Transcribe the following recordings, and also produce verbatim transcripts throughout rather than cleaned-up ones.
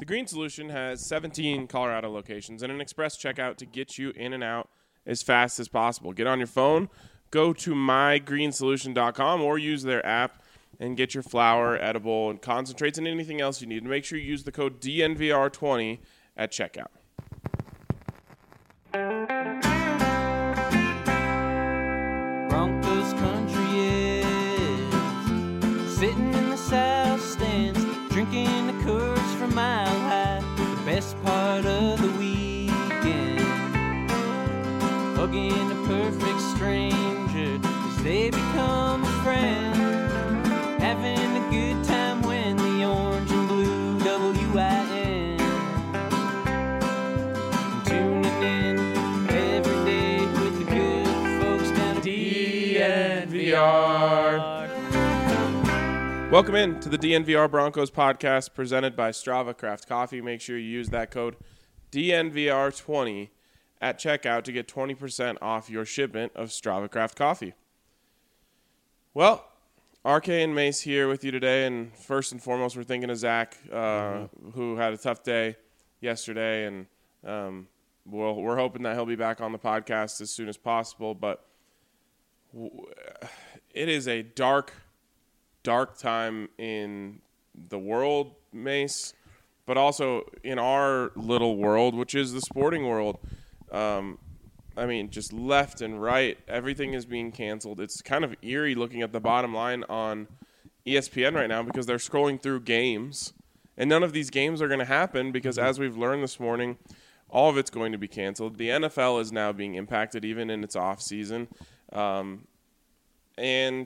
The Green Solution has seventeen Colorado locations and an express checkout to get you in and out as fast as possible. Get on your phone, go to my green solution dot com or use their app and get your flour, edible, and concentrates and anything else you need. Make sure you use the code D N V R twenty at checkout. Broncos country is sitting in the south stands, drinking the Coors from Mile High. The best part of the weekend, hugging a perfect stranger as they become a friend, having a good time when the orange and blue W I N, tuning in every day with the good folks down at D N V R. Welcome in to the D N V R Broncos podcast presented by Strava Craft Coffee. Make sure you use that code D N V R twenty at checkout to get twenty percent off your shipment of Strava Craft Coffee. Well, R K and Mace here with you today, and first and foremost, we're thinking of Zach, uh, mm-hmm. who had a tough day yesterday, and um, we'll, we're hoping that he'll be back on the podcast as soon as possible, but w- it is a dark dark time in the world, Mace, but also in our little world, which is the sporting world. Um, I mean, just left and right, everything is being canceled. It's kind of eerie looking at the bottom line on E S P N right now because they're scrolling through games, and none of these games are going to happen because, as we've learned this morning, all of it's going to be canceled. The N F L is now being impacted even in its off season. Um, and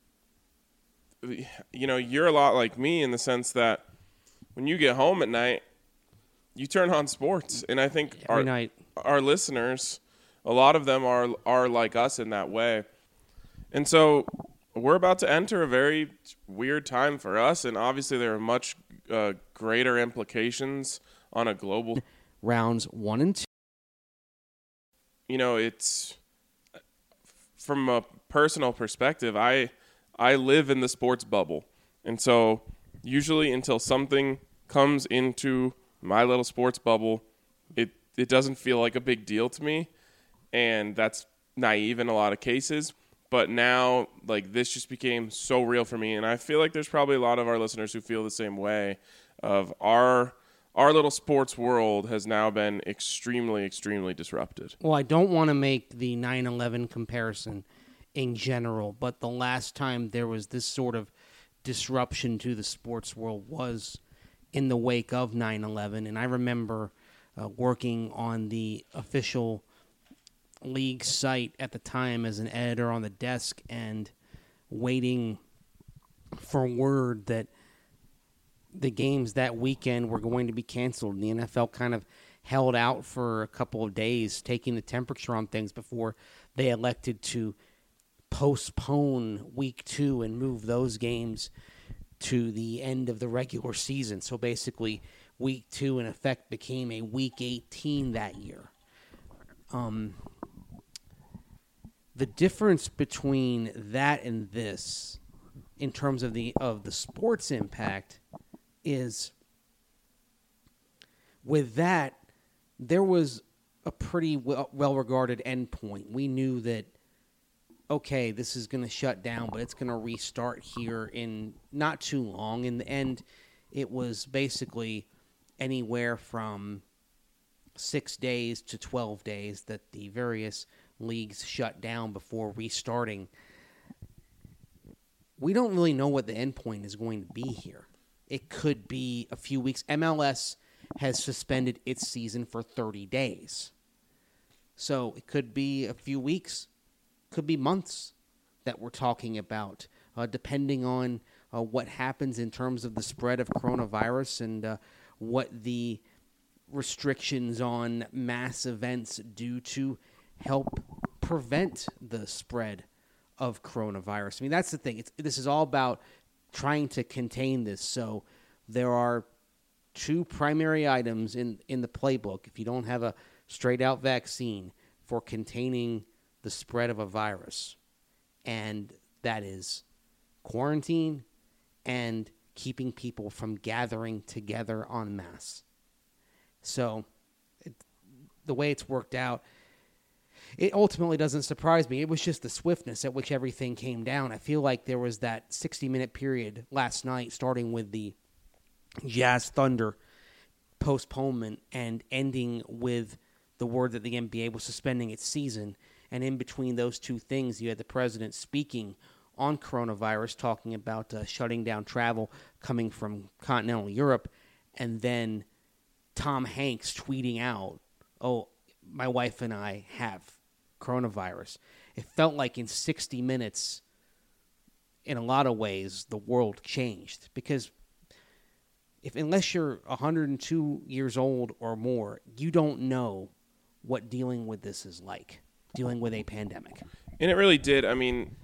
you know, you're a lot like me in the sense that when you get home at night, you turn on sports. And I think Every our night. our listeners, a lot of them are are like us in that way. And so we're about to enter a very weird time for us. And obviously there are much uh, greater implications on a global. Rounds one and two. You know, it's from a personal perspective, I I live in the sports bubble. And so usually until something comes into my little sports bubble, it, it doesn't feel like a big deal to me. And that's naive in a lot of cases. But now, like, this just became so real for me. And I feel like there's probably a lot of our listeners who feel the same way of our our little sports world has now been extremely, extremely disrupted. Well, I don't want to make the nine eleven comparison in general, but the last time there was this sort of disruption to the sports world was in the wake of nine eleven. And I remember uh, working on the official league site at the time as an editor on the desk and waiting for word that the games that weekend were going to be canceled. And the N F L kind of held out for a couple of days, taking the temperature on things before they elected to postpone week two and move those games to the end of the regular season. So basically, week two, in effect, became a week eighteen that year. Um, the difference between that and this, in terms of the of the sports impact, is with that, there was a pretty well, well-regarded endpoint. We knew that, okay, this is going to shut down, but it's going to restart here in not too long. In the end, it was basically anywhere from six days to twelve days that the various leagues shut down before restarting. We don't really know what the endpoint is going to be here. It could be a few weeks. M L S has suspended its season for thirty days. So it could be a few weeks, could be months that we're talking about, uh, depending on uh, what happens in terms of the spread of coronavirus and uh, what the restrictions on mass events do to help prevent the spread of coronavirus. I mean, that's the thing. It's, this is all about trying to contain this. So there are two primary items in, in the playbook, if you don't have a straight-out vaccine, for containing the spread of a virus. And that is quarantine and keeping people from gathering together en masse. So it, the way it's worked out, it ultimately doesn't surprise me. It was just the swiftness at which everything came down. I feel like there was that sixty-minute period last night, starting with the Jazz Thunder postponement and ending with the word that the N B A was suspending its season. And in between those two things, you had the president speaking on coronavirus, talking about uh, shutting down travel coming from continental Europe, and then Tom Hanks tweeting out, oh, my wife and I have coronavirus. It felt like in sixty minutes, in a lot of ways, the world changed. Because if unless you're one hundred two years old or more, you don't know what dealing with this is like, dealing with a pandemic. And it really did. I mean,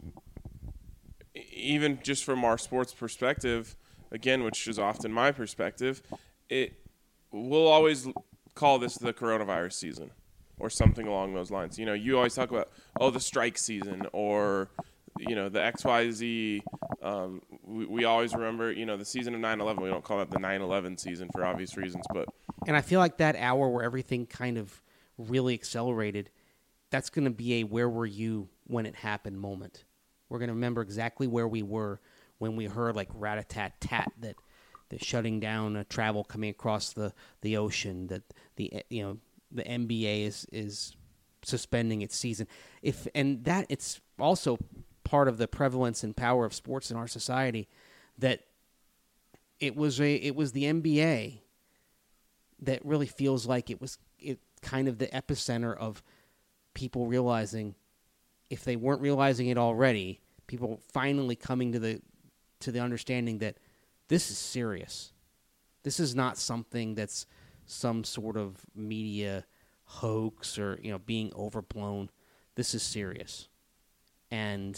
even just from our sports perspective, again, which is often my perspective, it we'll always call this the coronavirus season or something along those lines. You know, you always talk about, oh, the strike season or, you know, the X Y Z. Um, we, we always remember, you know, the season of nine eleven. We don't call it the nine eleven season for obvious reasons. But And I feel like that hour where everything kind of really accelerated, that's going to be a where were you when it happened moment. We're going to remember exactly where we were when we heard like rat-a-tat-tat that that shutting down uh, travel coming across the, the ocean, that the you know the N B A is is suspending its season. If and that it's also part of the prevalence and power of sports in our society, that it was a it was the N B A that really feels like it was it kind of the epicenter of people realizing, if they weren't realizing it already, people finally coming to the to the understanding that this is serious. This is not something that's some sort of media hoax or, you know, being overblown. This is serious. And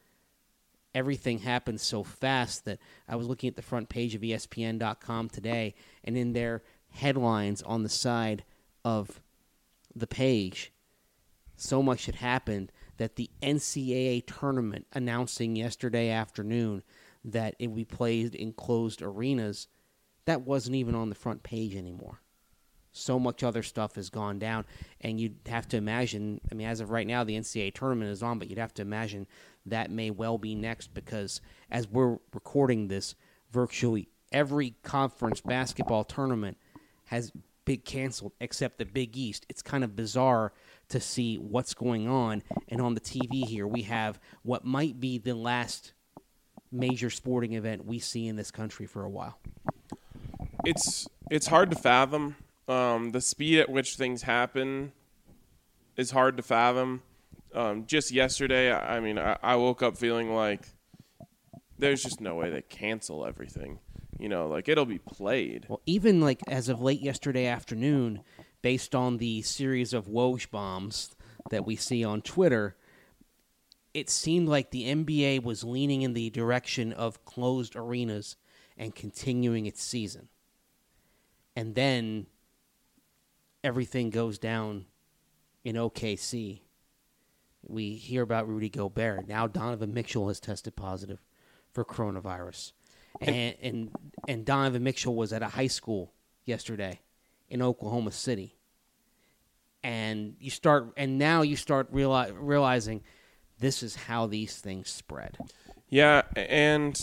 everything happened so fast that I was looking at the front page of E S P N dot com today, and in their headlines on the side of the page, so much had happened that the N C double A tournament announcing yesterday afternoon that it would be played in closed arenas, that wasn't even on the front page anymore. So much other stuff has gone down, and you'd have to imagine, I mean, as of right now, the N C double A tournament is on, but you'd have to imagine that may well be next, because as we're recording this, virtually every conference basketball tournament has been canceled except the Big East. It's kind of bizarre to see what's going on, and on the T V here, we have what might be the last major sporting event we see in this country for a while. It's it's hard to fathom. Um, the speed at which things happen is hard to fathom. Um, just yesterday, I mean, I, I woke up feeling like there's just no way they cancel everything. You know, like, it'll be played. Well, even, like, as of late yesterday afternoon, based on the series of Woj bombs that we see on Twitter, it seemed like the N B A was leaning in the direction of closed arenas and continuing its season. And then everything goes down in O K C. We hear about Rudy Gobert. Now Donovan Mitchell has tested positive for coronavirus. And, and and Donovan Mitchell was at a high school yesterday in Oklahoma City. And you start and now you start reali- realizing this is how these things spread. Yeah, and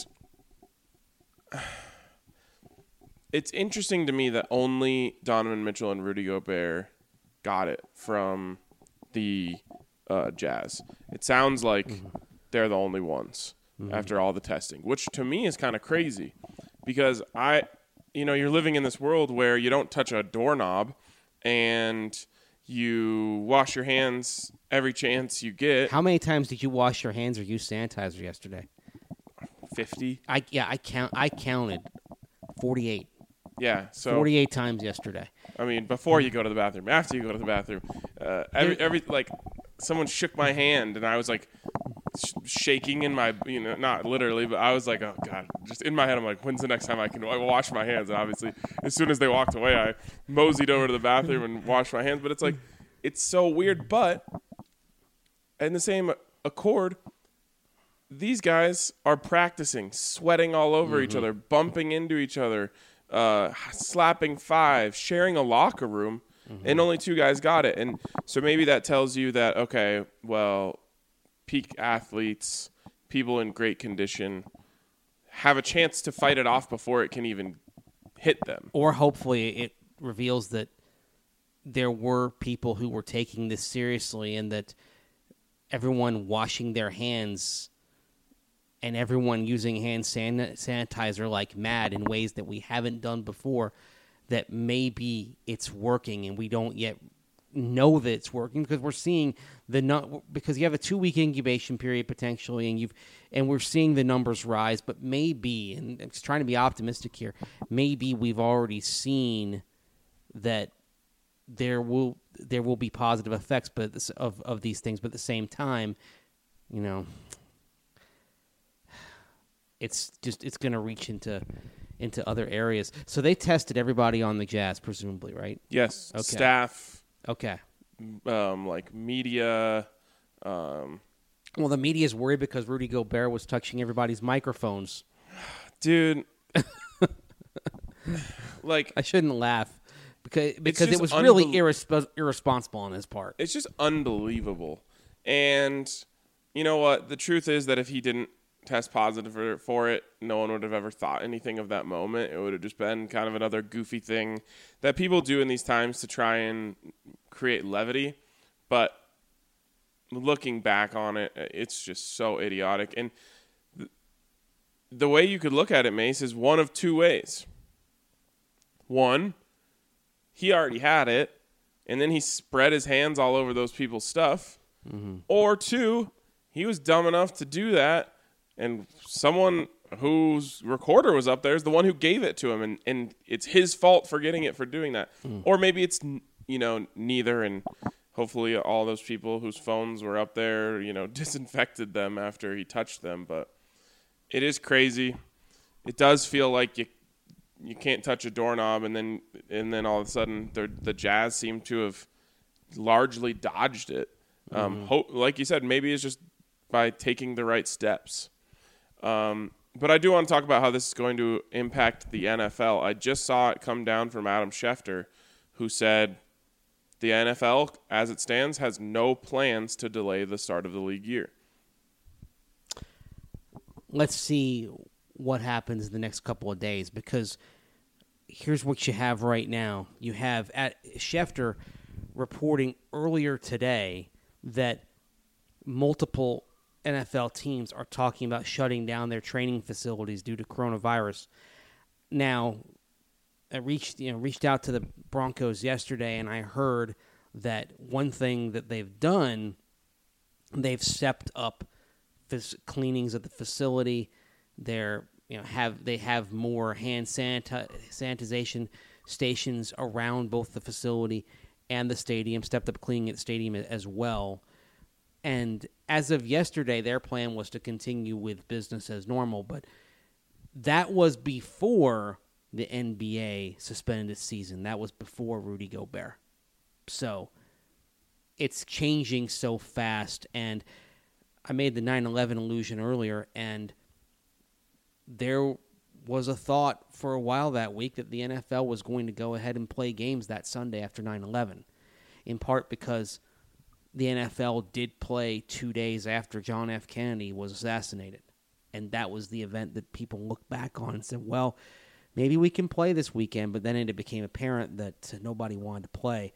it's interesting to me that only Donovan Mitchell and Rudy Gobert got it from the uh, Jazz. It sounds like mm-hmm. they're the only ones mm-hmm. after all the testing, which to me is kind of crazy because I, you know, you're living in this world where you don't touch a doorknob and you wash your hands every chance you get. How many times did you wash your hands or use sanitizer yesterday? fifty. I yeah, I count. I counted forty-eight. Yeah, so forty-eight times yesterday. I mean, before you go to the bathroom, after you go to the bathroom, uh, every every like someone shook my hand and I was like sh- shaking in my, you know, not literally, but I was like, oh god, just in my head, I'm like, when's the next time I can wash my hands? And obviously, as soon as they walked away, I moseyed over to the bathroom and washed my hands. But it's like, it's so weird. But in the same accord, these guys are practicing, sweating all over mm-hmm. each other, bumping into each other, uh, slapping five, sharing a locker room, mm-hmm. and only two guys got it. And so maybe that tells you that, okay, well, peak athletes, people in great condition, have a chance to fight it off before it can even hit them. Or hopefully it reveals that there were people who were taking this seriously and that everyone washing their hands and everyone using hand san- sanitizer like mad in ways that we haven't done before, that maybe it's working and we don't yet know that it's working because we're seeing the nu- because you have a two-week incubation period potentially, and you've and we're seeing the numbers rise, but maybe, and I'm just trying to be optimistic here, maybe we've already seen that there will there will be positive effects but this, of of these things, but at the same time, you know, it's just it's going to reach into into other areas. So they tested everybody on the Jazz, presumably, right? Yes. Okay. Staff. Okay. Um, like media. Um, well, the media is worried because Rudy Gobert was touching everybody's microphones. Dude. Like, I shouldn't laugh because because it was unbe- really irresp- irresponsible on his part. It's just unbelievable. And you know what? The truth is that if he didn't test positive for, for it, no one would have ever thought anything of that moment. It would have just been kind of another goofy thing that people do in these times to try and create levity. But looking back on it, it's just so idiotic. And th- the way you could look at it, Mace, is one of two ways. One, he already had it, and then he spread his hands all over those people's stuff. Mm-hmm. Or two, he was dumb enough to do that, and someone whose recorder was up there is the one who gave it to him, and, and it's his fault for getting it for doing that. Mm. Or maybe it's, you know, neither, and hopefully all those people whose phones were up there, you know, disinfected them after he touched them. But it is crazy. It does feel like you you can't touch a doorknob, and then and then all of a sudden the the Jazz seem to have largely dodged it. Um, mm-hmm. ho- like you said, maybe it's just by taking the right steps. Um, but I do want to talk about how this is going to impact the N F L. I just saw it come down from Adam Schefter, who said the N F L, as it stands, has no plans to delay the start of the league year. Let's see what happens the next couple of days, because here's what you have right now. You have at Schefter reporting earlier today that multiple N F L teams are talking about shutting down their training facilities due to coronavirus. Now, I reached you know reached out to the Broncos yesterday, and I heard that one thing that they've done, they've stepped up phys- cleanings of the facility. They're you know have they have more hand sanita- sanitization stations around both the facility and the stadium. Stepped up cleaning at the stadium as well. And as of yesterday, their plan was to continue with business as normal, but that was before the N B A suspended its season. That was before Rudy Gobert. So it's changing so fast, and I made the nine eleven allusion earlier, and there was a thought for a while that week that the N F L was going to go ahead and play games that Sunday after nine eleven, in part because the N F L did play two days after John F. Kennedy was assassinated. And that was the event that people look back on and said, well, maybe we can play this weekend, but then it became apparent that nobody wanted to play.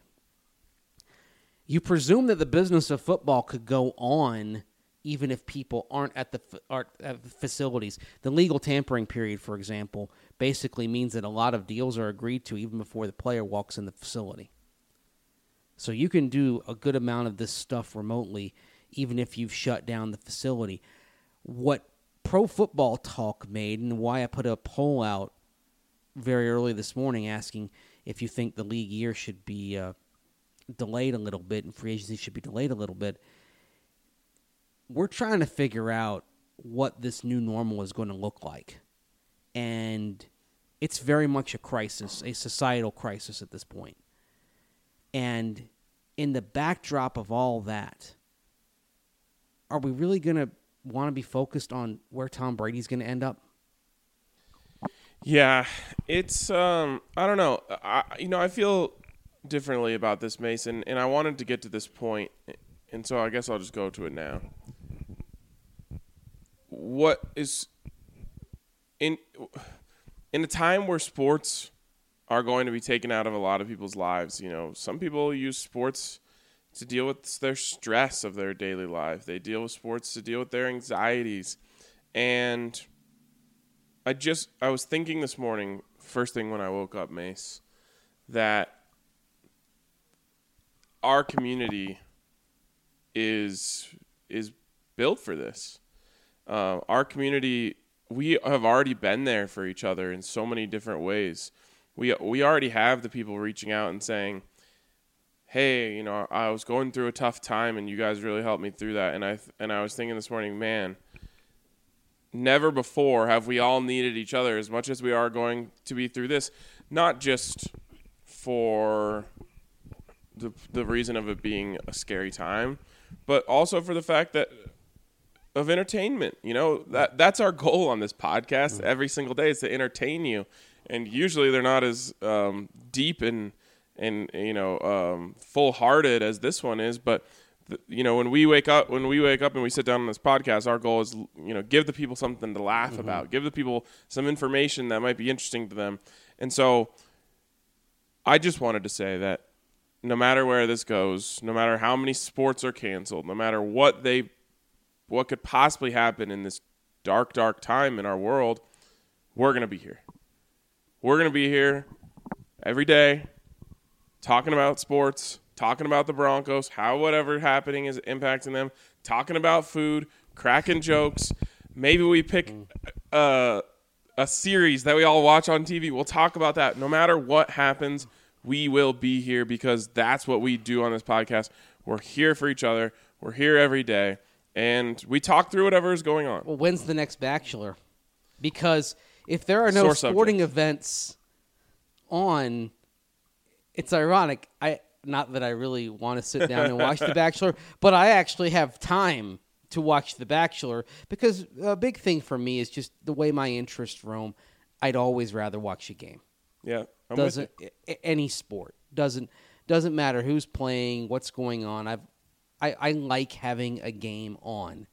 You presume that the business of football could go on even if people aren't at the aren't at the facilities. The legal tampering period, for example, basically means that a lot of deals are agreed to even before the player walks in the facility. So you can do a good amount of this stuff remotely, even if you've shut down the facility. What Pro Football Talk made, and why I put a poll out very early this morning asking if you think the league year should be uh, delayed a little bit and free agency should be delayed a little bit, we're trying to figure out what this new normal is going to look like. And it's very much a crisis, a societal crisis at this point. And in the backdrop of all that, are we really going to want to be focused on where Tom Brady's going to end up? Yeah, it's um, I don't know. I you know I feel differently about this, Mason, and I wanted to get to this point, and so I guess I'll just go to it now. What is in in a time where sports are going to be taken out of a lot of people's lives? You know, some people use sports to deal with their stress of their daily life. They deal with sports to deal with their anxieties, and I just, I was thinking this morning, first thing when I woke up, Mace, that our community is is built for this. Uh, our community, we have already been there for each other in so many different ways. We we already have the people reaching out and saying, hey, you know, I was going through a tough time and you guys really helped me through that. And I and I was thinking this morning, man, never before have we all needed each other as much as we are going to be through this, not just for the the reason of it being a scary time, but also for the fact that of entertainment. You know, that that's our goal on this podcast every single day, is to entertain you. And usually they're not as um, deep and, and you know, um, full-hearted as this one is, but you know, when we wake up, when we wake up and we sit down on this podcast, our goal is, you know, give the people something to laugh mm-hmm. about, give the people some information that might be interesting to them. And so I just wanted to say that no matter where this goes, no matter how many sports are canceled, no matter what they, what could possibly happen in this dark, dark time in our world, we're going to be here. We're going to be here every day talking about sports, talking about the Broncos, how whatever happening is impacting them, talking about food, cracking jokes. Maybe we pick uh, a series that we all watch on T V. We'll talk about that. No matter what happens, we will be here because that's what we do on this podcast. We're here for each other. We're here every day, and we talk through whatever is going on. Well, when's the next Bachelor? Because if there are no Sore sporting subject. events on, it's ironic. I Not that I really want to sit down and watch The Bachelor, but I actually have time to watch The Bachelor because a big thing for me is just the way my interests roam. I'd always rather watch a game. Yeah, I'm doesn't with you. Any sport doesn't doesn't matter who's playing, what's going on. I've I, I like having a game on,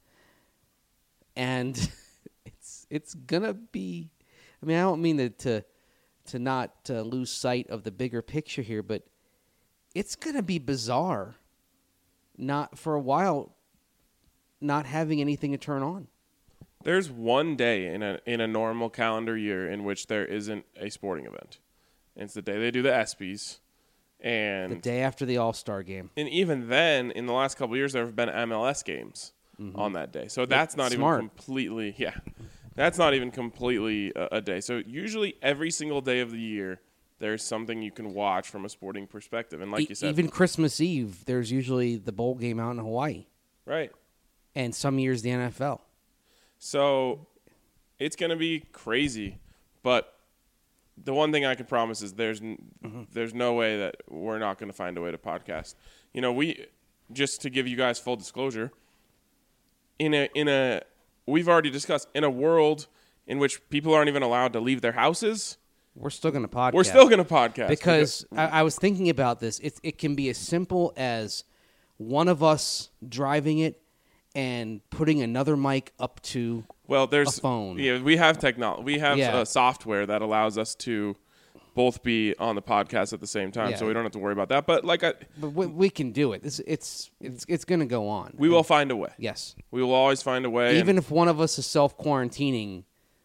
and it's it's gonna be. I mean, I don't mean to to, to not uh, lose sight of the bigger picture here, but it's going to be bizarre not for a while not having anything to turn on. There's one day in a in a normal calendar year in which there isn't a sporting event. And it's the day they do the ESPYs. And the day after the All-Star game. And even then, in the last couple of years, there have been M L S games mm-hmm. on that day. So that's not Smart. even completely, yeah, that's not even completely a, a day. So usually every single day of the year, there's something you can watch from a sporting perspective. And like e- you said, even Christmas Eve, there's usually the bowl game out in Hawaii. Right. And some years the N F L. So it's going to be crazy. But the one thing I can promise is there's mm-hmm. there's no way that we're not going to find a way to podcast. You know, we just to give you guys full disclosure, in a in a we've already discussed in a world in which people aren't even allowed to leave their houses, we're still going to podcast. We're still going to podcast. Because, because I, I was thinking about this. It, it can be as simple as one of us driving it and putting another mic up to well, there's, a phone. Yeah, we have technology. We have yeah. uh, software that allows us to both be on the podcast at the same time, yeah. so we don't have to worry about that. But like, I, but we, we can do it. It's it's it's, it's going to go on. We and, will find a way. Yes, we will always find a way. Even if one of us is self-quarantining,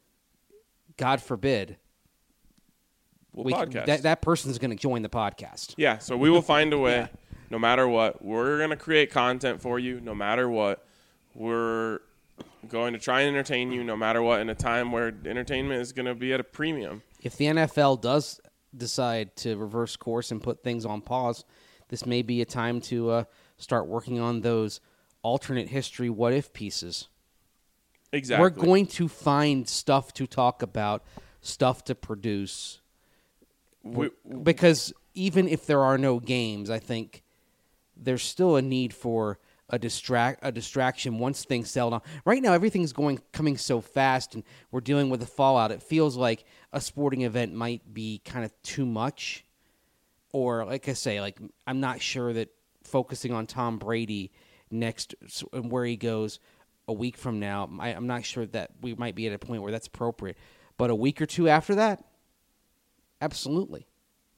God forbid. We'll we podcast. Can, that, that person's going to join the podcast. Yeah, so we will find a way, yeah. no matter what. We're going to create content for you, no matter what. We're going to try and entertain you, no matter what, in a time where entertainment is going to be at a premium. If the N F L does decide to reverse course and put things on pause, this may be a time to uh, start working on those alternate history what-if pieces. Exactly. We're going to find stuff to talk about, stuff to produce. We, because even if there are no games, I think there's still a need for a distract a distraction once things settle down. Right now, everything's going coming so fast, and we're dealing with the fallout. It feels like a sporting event might be kind of too much, or like I say, like I'm not sure that focusing on Tom Brady next and where he goes a week from now, I, I'm not sure that we might be at a point where that's appropriate. But a week or two after that, absolutely.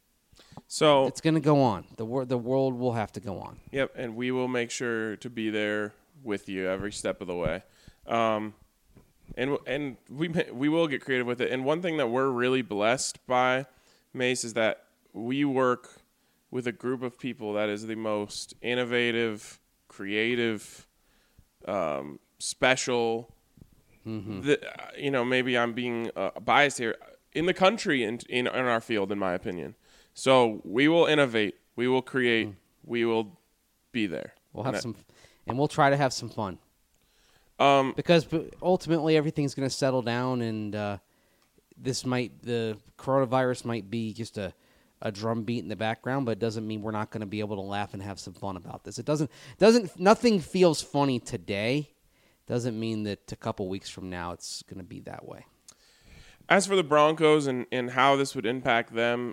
So it's going to go on. The wor- the world will have to go on. Yep, and we will make sure to be there with you every step of the way. Um, and and we we will get creative with it. And one thing that we're really blessed by, Mace, is that we work with a group of people that is the most innovative, creative, um, special. Mm-hmm. The, you know, maybe I'm being uh, biased here, in the country and in, in our field, in my opinion. So we will innovate, we will create, mm. we will be there. We'll have and some, and we'll try to have some fun. Um, because ultimately everything's going to settle down, and uh, this might the coronavirus might be just a, a drum beat in the background, but it doesn't mean we're not going to be able to laugh and have some fun about this. It doesn't doesn't nothing feels funny today. Doesn't mean that a couple weeks from now it's going to be that way. As for the Broncos and, and how this would impact them,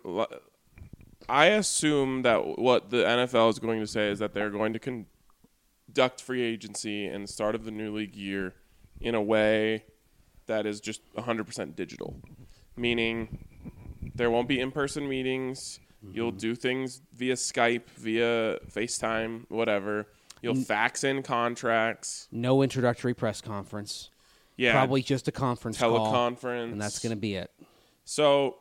I assume that what the N F L is going to say is that they're going to conduct free agency and the start of the new league year in a way that is just one hundred percent digital, meaning there won't be in-person meetings. Mm-hmm. You'll do things via Skype, via FaceTime, whatever. You'll fax in contracts. No introductory press conference. Yeah. Probably just a conference teleconference. call. And that's going to be it. So,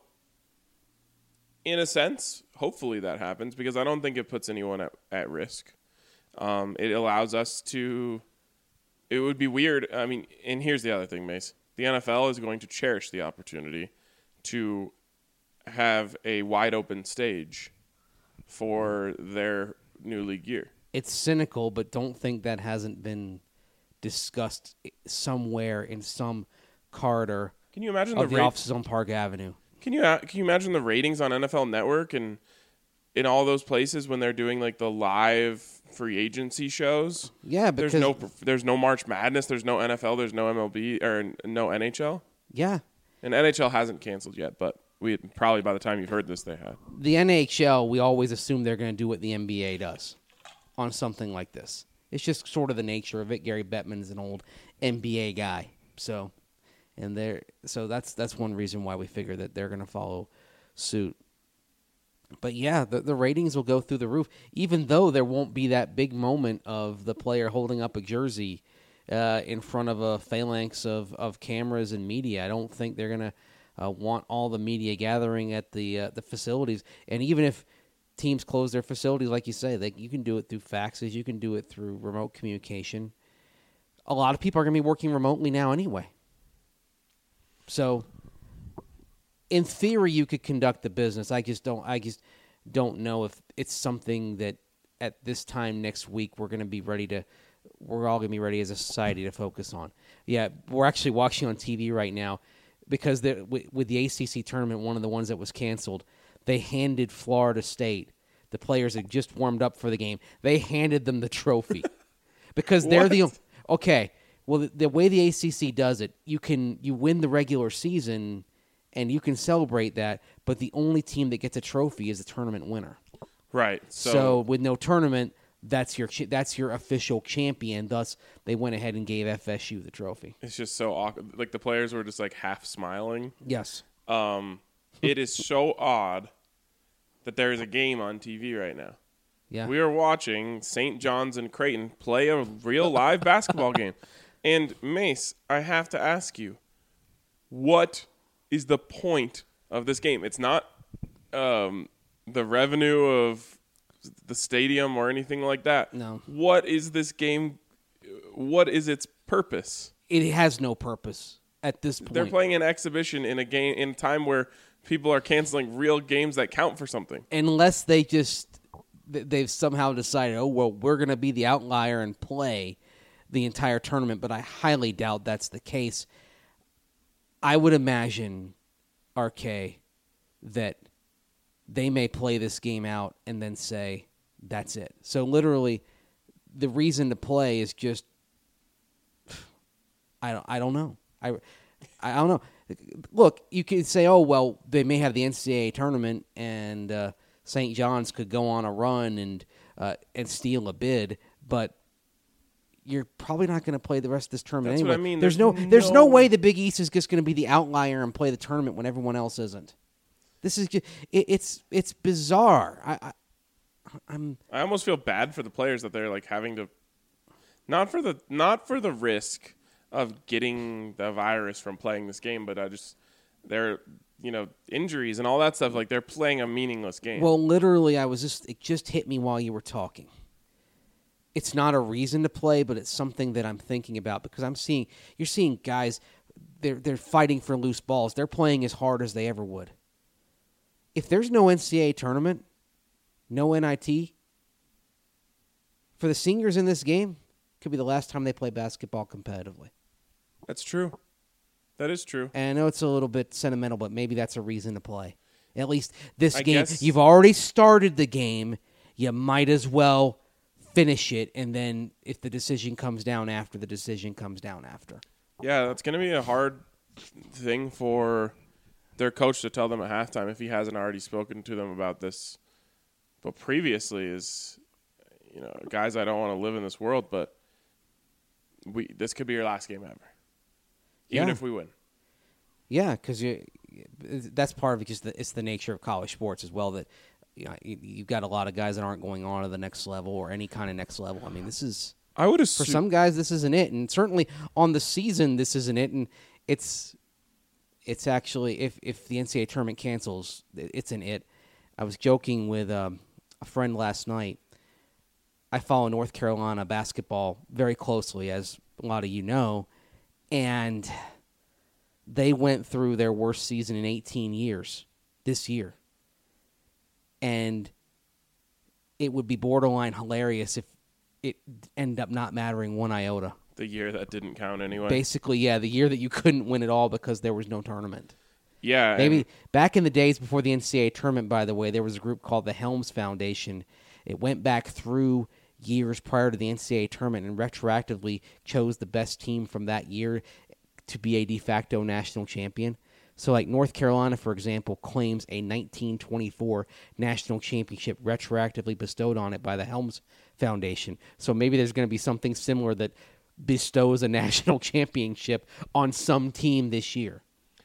in a sense, hopefully that happens because I don't think it puts anyone at, at risk. Um, it allows us to – it would be weird. I mean, and here's the other thing, Mace. The N F L is going to cherish the opportunity to have a wide-open stage for their new league year. It's cynical, but don't think that hasn't been discussed somewhere in some corridor. Can you imagine of the, the rate- offices on Park Avenue? Can you can you imagine the ratings on N F L Network and in all those places when they're doing like the live free agency shows? Yeah, because there's no there's no March Madness, there's no N F L, there's no M L B or no N H L. Yeah, and N H L hasn't canceled yet, but we probably by the time you've heard this, they had. The N H L, we always assume they're going to do what the N B A does on something like this. It's just sort of the nature of it. Gary Bettman is an old N B A guy, so and there, so that's that's one reason why we figure that they're going to follow suit. But yeah, the the ratings will go through the roof, even though there won't be that big moment of the player holding up a jersey uh, in front of a phalanx of, of cameras and media. I don't think they're going to uh, want all the media gathering at the uh, the facilities, and even if teams close their facilities, like you say, they, you can do it through faxes. You can do it through remote communication. A lot of people are going to be working remotely now anyway. So, in theory, you could conduct the business. I just don't. I just don't know if it's something that at this time next week we're going to be ready to. We're all going to be ready as a society to focus on. Yeah, we're actually watching on T V right now because the, with, with the A C C tournament, one of the ones that was canceled. They handed Florida State, the players had just warmed up for the game, they handed them the trophy. Because they're the – okay, well, the, the way the A C C does it, you can you win the regular season and you can celebrate that, but the only team that gets a trophy is the tournament winner. Right. So, so with no tournament, that's your that's your official champion. Thus, they went ahead and gave F S U the trophy. It's just so awkward. Like, the players were just, like, half smiling. Yes. Um, it is so odd that there is a game on T V right now. Yeah. We are watching Saint John's and Creighton play a real live basketball game. And, Mace, I have to ask you, what is the point of this game? It's not um, the revenue of the stadium or anything like that. No. What is this game? What is its purpose? It has no purpose at this point. They're playing an exhibition in a game in a time where people are canceling real games that count for something. Unless they just they've somehow decided, oh well, we're going to be the outlier and play the entire tournament. But I highly doubt that's the case. I would imagine, R K, that they may play this game out and then say that's it. So literally, the reason to play is just I don't I don't know. I I don't know. Look, you could say, oh well, they may have the N C double A tournament, and uh, Saint John's could go on a run and uh, and steal a bid, but you're probably not going to play the rest of this tournament That's anyway. what I mean. There's, There's no, there's no- no way the Big East is just going to be the outlier and play the tournament when everyone else isn't. This is just, it, it's it's bizarre. I, I I'm I almost feel bad for the players that they're like having to, not for the not for the risk of getting the virus from playing this game, but I just they're you know injuries and all that stuff. Like they're playing a meaningless game. well, literally, I was just it just hit me while you were talking. It's not a reason to play, but it's something that I'm thinking about because I'm seeing you're seeing guys they're they're fighting for loose balls. They're playing as hard as they ever would. If there's no N C double A tournament, no N I T, for the seniors in this game, could be the last time they play basketball competitively. That's true. That is true. And I know it's a little bit sentimental, but maybe that's a reason to play. At least this I game, guess- you've already started the game. You might as well finish it, and then if the decision comes down after, the decision comes down after. Yeah, that's going to be a hard thing for their coach to tell them at halftime if he hasn't already spoken to them about this. But previously is, you know, guys, I don't want to live in this world, but we this could be your last game ever, even Yeah. if we win. Yeah, because that's part of it. Just the, it's the nature of college sports as well. That you know, you, you've got a lot of guys that aren't going on to the next level or any kind of next level. I mean, this is I would for assume some guys this isn't it, and certainly on the season this isn't it. And it's it's actually if if the N C double A tournament cancels, it's an it. I was joking with um, a friend last night. I follow North Carolina basketball very closely, as a lot of you know, and they went through their worst season in eighteen years this year. And it would be borderline hilarious if it ended up not mattering one iota. the year that didn't count anyway. Basically, yeah, the year that you couldn't win it all because there was no tournament. yeah, Maybe and back in the days before the N C double A tournament, by the way, there was a group called the Helms Foundation. It went back through years prior to the N C double A tournament and retroactively chose the best team from that year to be a de facto national champion. So like North Carolina, for example, claims a nineteen twenty-four national championship retroactively bestowed on it by the Helms Foundation. So maybe there's going to be something similar that bestows a national championship on some team this year.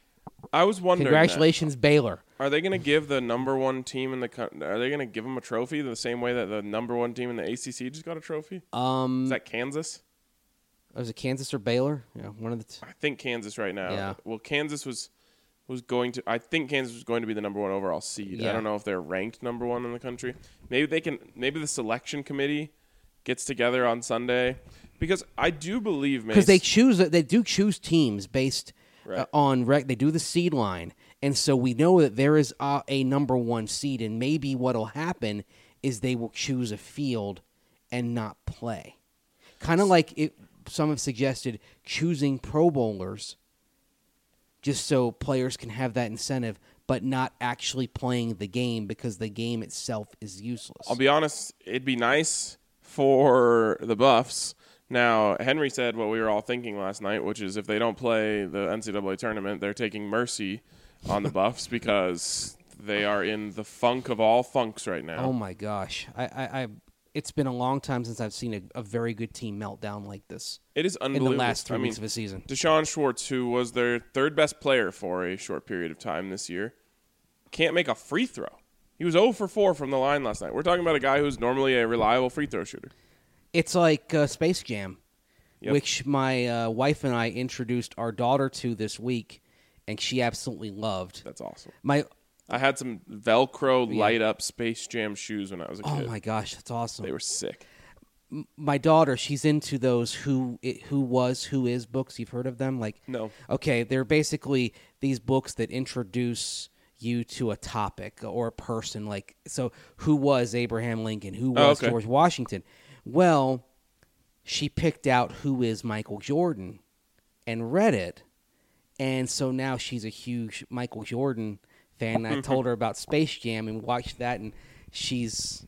I was wondering. that. Congratulations, Baylor. Are they going to give the number one team in the? co- Are they going to give them a trophy the same way that the number one team in the A C C just got a trophy? Um, Is that Kansas? was it Kansas or Baylor? Yeah, one of the. T- I think Kansas right now. Yeah. Well, Kansas was was going to. I think Kansas was going to be the number one overall seed. Yeah. I don't know if they're ranked number one in the country. Maybe they can. Maybe the selection committee gets together on Sunday because I do believe because Mace, they choose they do choose teams based Right. uh, on rec. They do the seed line, and so we know that there is a, a number one seed, and maybe what'll happen is they will choose a field and not play, kind of like it. Some have suggested choosing Pro Bowlers, just so players can have that incentive, but not actually playing the game because the game itself is useless. I'll be honest. It'd be nice for the Buffs. Now, Henry said what we were all thinking last night, which is if they don't play the N C double A tournament, they're taking mercy on the Buffs because they are in the funk of all funks right now. Oh my gosh, I, I, I it's been a long time since I've seen a, a very good team meltdown like this It is in the unbelievable. last three I mean, weeks of a season. Deshaun Schwartz, who was their third best player for a short period of time this year, can't make a free throw. He was zero for four from the line last night. We're talking about a guy who's normally a reliable free throw shooter. It's like uh, Space Jam, Yep. which my uh, wife and I introduced our daughter to this week, and she absolutely loved. That's awesome. My I had some Velcro light up Space Jam shoes when I was a oh kid. my gosh, that's awesome. They were sick. My daughter, she's into those who it, who was who is books. You've heard of them? Like No. Okay, they're basically these books that introduce you to a topic or a person. Like so, who was Abraham Lincoln? Who Oh, was okay. George Washington? Well, she picked out who is Michael Jordan and read it, and so now she's a huge Michael Jordan fan. I told her about Space Jam and watched that, and she's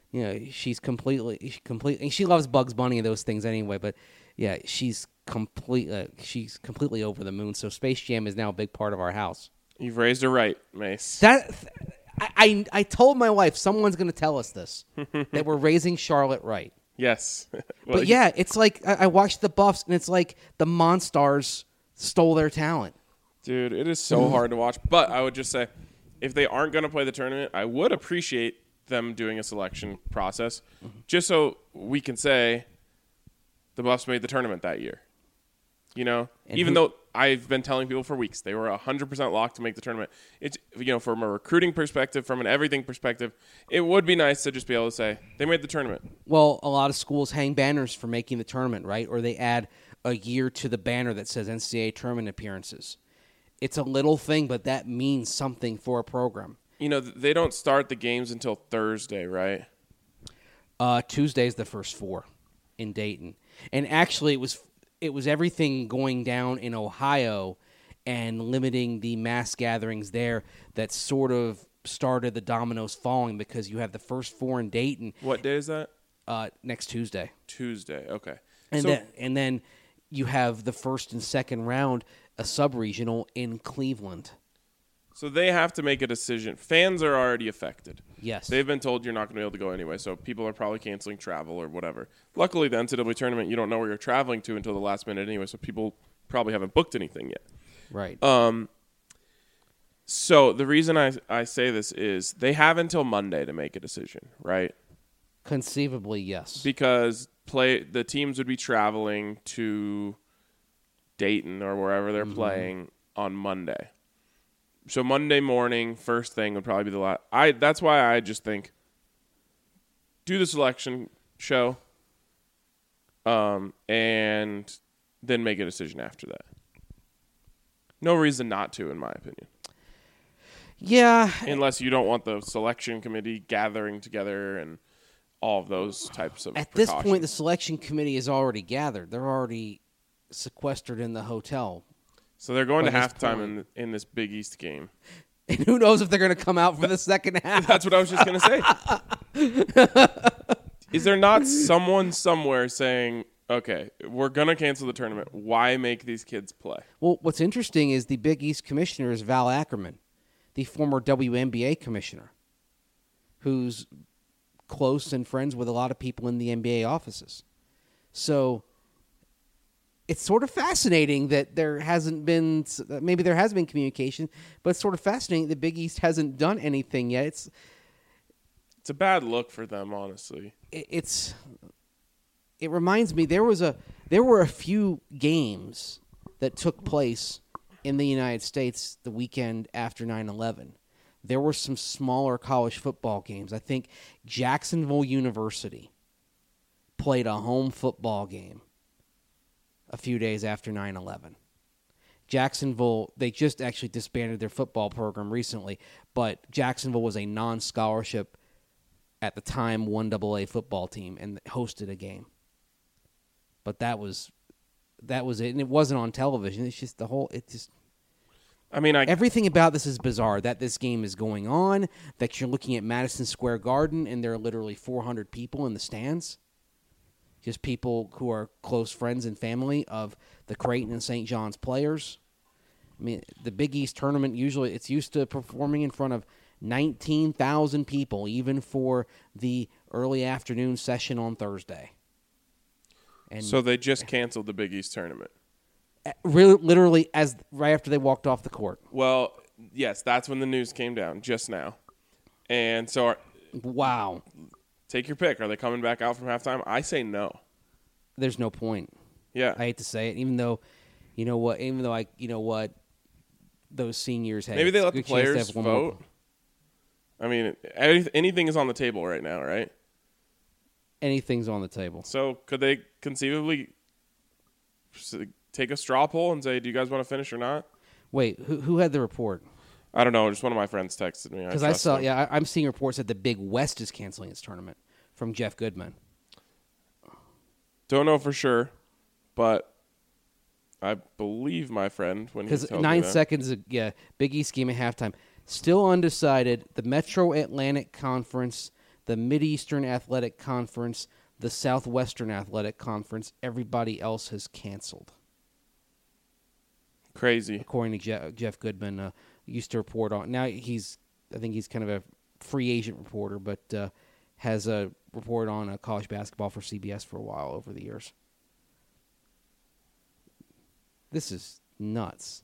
you know, she's completely, she completely, she loves Bugs Bunny and those things anyway. But yeah, she's complete, uh, she's completely over the moon. So Space Jam is now a big part of our house. You've raised her right, Mace. That I, I, I told my wife someone's going to tell us this that we're raising Charlotte right. Yes. Well, But yeah, it's like I, I watched the Buffs, and it's like the Monstars stole their talent. dude, it is so hard to watch. But I would just say, if they aren't going to play the tournament, I would appreciate them doing a selection process, mm-hmm. just so we can say the Buffs made the tournament that year. You know, and even who, though I've been telling people for weeks they were one hundred percent locked to make the tournament. It's, you know, from a recruiting perspective, from an everything perspective, it would be nice to just be able to say they made the tournament. Well, a lot of schools hang banners for making the tournament, right? Or they add a year to the banner that says N C double A tournament appearances. It's a little thing, but that means something for a program. You know, they don't start the games until Thursday, right? Uh, Tuesday's the first four in Dayton. And actually, it was it was everything going down in Ohio and limiting the mass gatherings there that sort of started the dominoes falling, because you have the first four in Dayton. What day is that? Uh, next Tuesday. Tuesday, okay. And, so, then, and then you have the first and second round, a sub-regional in Cleveland. So they have to make a decision. Fans are already affected. Yes. They've been told you're not going to be able to go anyway, so people are probably canceling travel or whatever. Luckily, the N C double A tournament, you don't know where you're traveling to until the last minute anyway, so people probably haven't booked anything yet. Right. Um. So the reason I, I say this is they have until Monday to make a decision, right? Conceivably, yes. Because play the teams would be traveling to Dayton or wherever they're mm-hmm. playing on Monday. So Monday morning, first thing would probably be the last. I that's why I just think do the selection show, um, and then make a decision after that. No reason not to, in my opinion. Yeah, unless you don't want the selection committee gathering together and all of those types of. At this point, the selection committee is already gathered. They're already sequestered in the hotel. So they're going to halftime in in this Big East game. And who knows if they're going to come out for the second half. That's what I was just going to say. Is there not someone somewhere saying, okay, we're going to cancel the tournament. Why make these kids play? Well, what's interesting is the Big East commissioner is Val Ackerman, the former W N B A commissioner, who's close and friends with a lot of people in the N B A offices. So it's sort of fascinating that there hasn't been, maybe there has been communication, but it's sort of fascinating that Big East hasn't done anything yet. It's it's a bad look for them, honestly. It, it's it reminds me there was a there were a few games that took place in the United States the weekend after nine eleven. There were some smaller college football games. I think Jacksonville University played a home football game a few days after nine eleven. Jacksonville, they just actually disbanded their football program recently, but Jacksonville was a non-scholarship at the time one double A football team and hosted a game. But that was that was it, and it wasn't on television. It's just the whole, it just... I mean, I, everything about this is bizarre, that this game is going on, that you're looking at Madison Square Garden, and there are literally four hundred people in the stands. Just people who are close friends and family of the Creighton and Saint John's players. I mean, the Big East tournament, usually it's used to performing in front of nineteen thousand people, even for the early afternoon session on Thursday. And so they just canceled the Big East tournament. Really, literally, as right after they walked off the court. Well, yes, that's when the news came down, just now. And so... Our, wow. Take your pick. Are they coming back out from halftime? I say no. There's no point. Yeah. I hate to say it, even though, you know what, even though I, you know what, those seniors had. Maybe they let the players vote. I mean, anything is on the table right now, right? Anything's on the table. So could they conceivably take a straw poll and say, do you guys want to finish or not? Wait, who who had the report? I don't know. Just one of my friends texted me. Because I, I saw, them. yeah, I, I'm seeing reports that the Big West is canceling its tournament from Jeff Goodman. Don't know for sure, but I believe my friend when he tells me that. Because nine seconds, yeah, Big East game at halftime. Still undecided. The Metro Atlantic Conference, the Mideastern Athletic Conference, the Southwestern Athletic Conference. Everybody else has canceled. Crazy. According to Jeff, Jeff Goodman, uh, used to report on. Now he's, I think he's kind of a free agent reporter, but uh, has a report on uh, college basketball for C B S for a while over the years. This is nuts.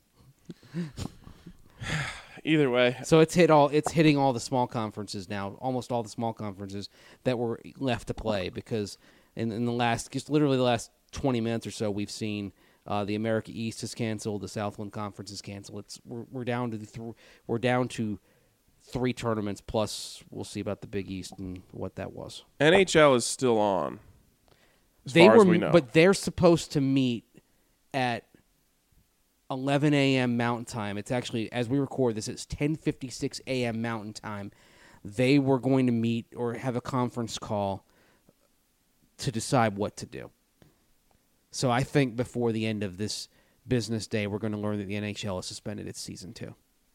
Either way, So it's hit all. It's hitting all the small conferences now. Almost all the small conferences that were left to play because in, in the last, just literally the last twenty minutes or so, we've seen uh, the America East is canceled, the Southland Conference is canceled. It's we're, we're down to the th- we're down to three tournaments plus. We'll see about the Big East and what that was. N H L is still on. As They far were, as we know. but they're supposed to meet at eleven a.m. Mountain Time. It's actually, as we record this, it's ten fifty-six a.m. Mountain Time. They were going to meet or have a conference call to decide what to do. So I think before the end of this business day, we're going to learn that the N H L has suspended its season two.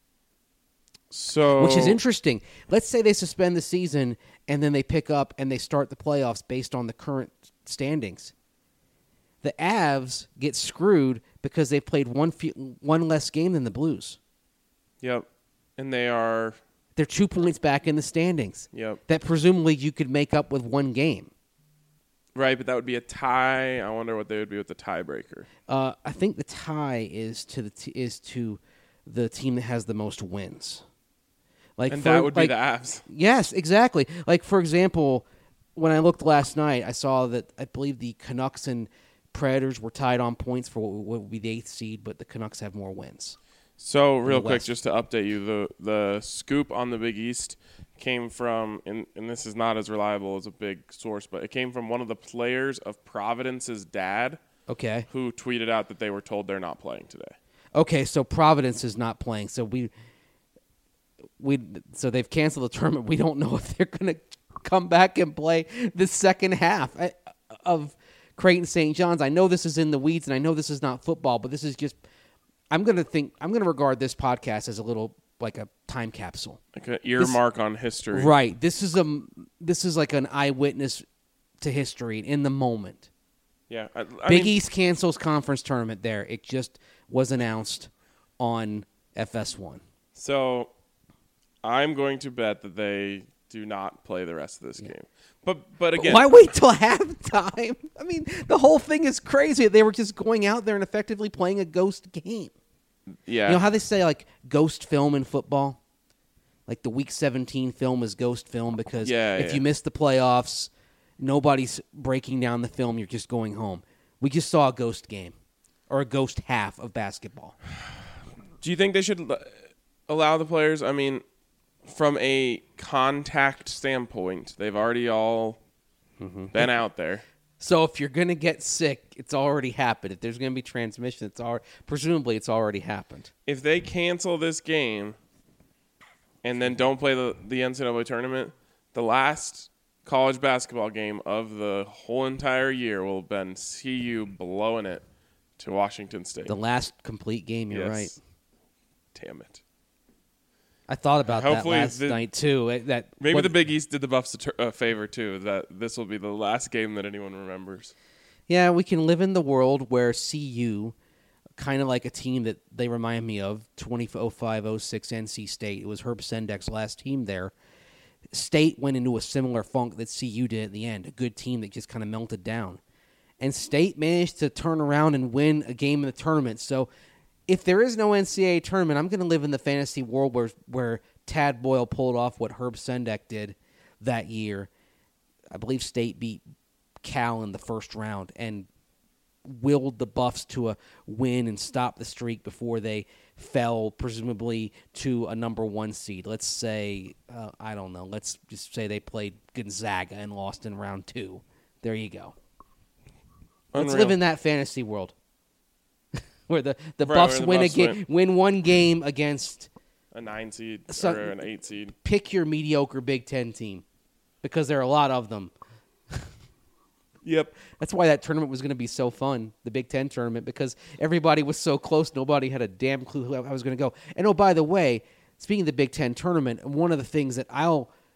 So, Which is interesting. Let's say they suspend the season and then they pick up and they start the playoffs based on the current standings. The Avs get screwed because they played one few, one less game than the Blues. Yep. And they are. They're two points back in the standings. Yep. That presumably you could make up with one game. Right, but that would be a tie. I wonder what they would be with the tiebreaker. Uh, I think the tie is to the t- is to the team that has the most wins. Like And for, that would like, be the Avs. Yes, exactly. Like for example, when I looked last night, I saw that I believe the Canucks and Predators were tied on points for what would be the eighth seed, but the Canucks have more wins. So, real quick, West. just to update you, the the scoop on the Big East came from, and, and this is not as reliable as a big source, but it came from one of the players of Providence's dad, Okay. who tweeted out that they were told they're not playing today. Okay, so Providence is not playing. So we we so they've canceled the tournament. We don't know if they're going to come back and play the second half I- of Creighton Saint John's. I know this is in the weeds, and I know this is not football, but this is just. I'm going to think. I'm going to regard this podcast as a little like a time capsule. Like an earmark on history. Right. This is a. This is like an eyewitness to history in the moment. Yeah. I, I Big mean, East cancels conference tournament. There, it just was announced on F S one. So, I'm going to bet that they do not play the rest of this game. But but again, Why wait till halftime? I mean, the whole thing is crazy. They were just going out there and effectively playing a ghost game. yeah. You know how they say, like, ghost film in football? Like, the Week seventeen film is ghost film because Yeah, if yeah. you miss the playoffs, nobody's breaking down the film. You're just going home. We just saw a ghost game or a ghost half of basketball. Do you think they should l- allow the players? I mean, from a contact standpoint, they've already all Mm-hmm. been out there. So if you're going to get sick, it's already happened. If there's going to be transmission, it's al- presumably it's already happened. If they cancel this game and then don't play the, the N C double A tournament, the last college basketball game of the whole entire year will have been C U blowing it to Washington State. The last complete game, you're Yes. right. Damn it. I thought about Hopefully that last the- night too. It- That Maybe what- the Big East did the Buffs a, tur- a favor, too, that this will be the last game that anyone remembers. Yeah, we can live in the world where C U, kind of like a team that they remind me of, twenty oh five oh six N C State. It was Herb Sendek's last team there. State went into a similar funk that C U did at the end, a good team that just kind of melted down. And State managed to turn around and win a game in the tournament. So if there is no N C double A tournament, I'm going to live in the fantasy world where where Tad Boyle pulled off what Herb Sendek did that year. I believe State beat Cal in the first round and willed the Buffs to a win and stopped the streak before they fell, presumably, to a number one seed. Let's say, uh, I don't know, let's just say they played Gonzaga and lost in round two. There you go. Let's Unreal. live in that fantasy world where the, the Right, Buffs where the win Buffs a ga- win. win one game against A nine seed So- or an eight seed. pick your mediocre Big Ten team because there are a lot of them. Yep. That's why that tournament was going to be so fun, the Big Ten tournament, because everybody was so close. Nobody had a damn clue who I was going to go. And, oh, by the way, speaking of the Big Ten tournament, one of the things that I'll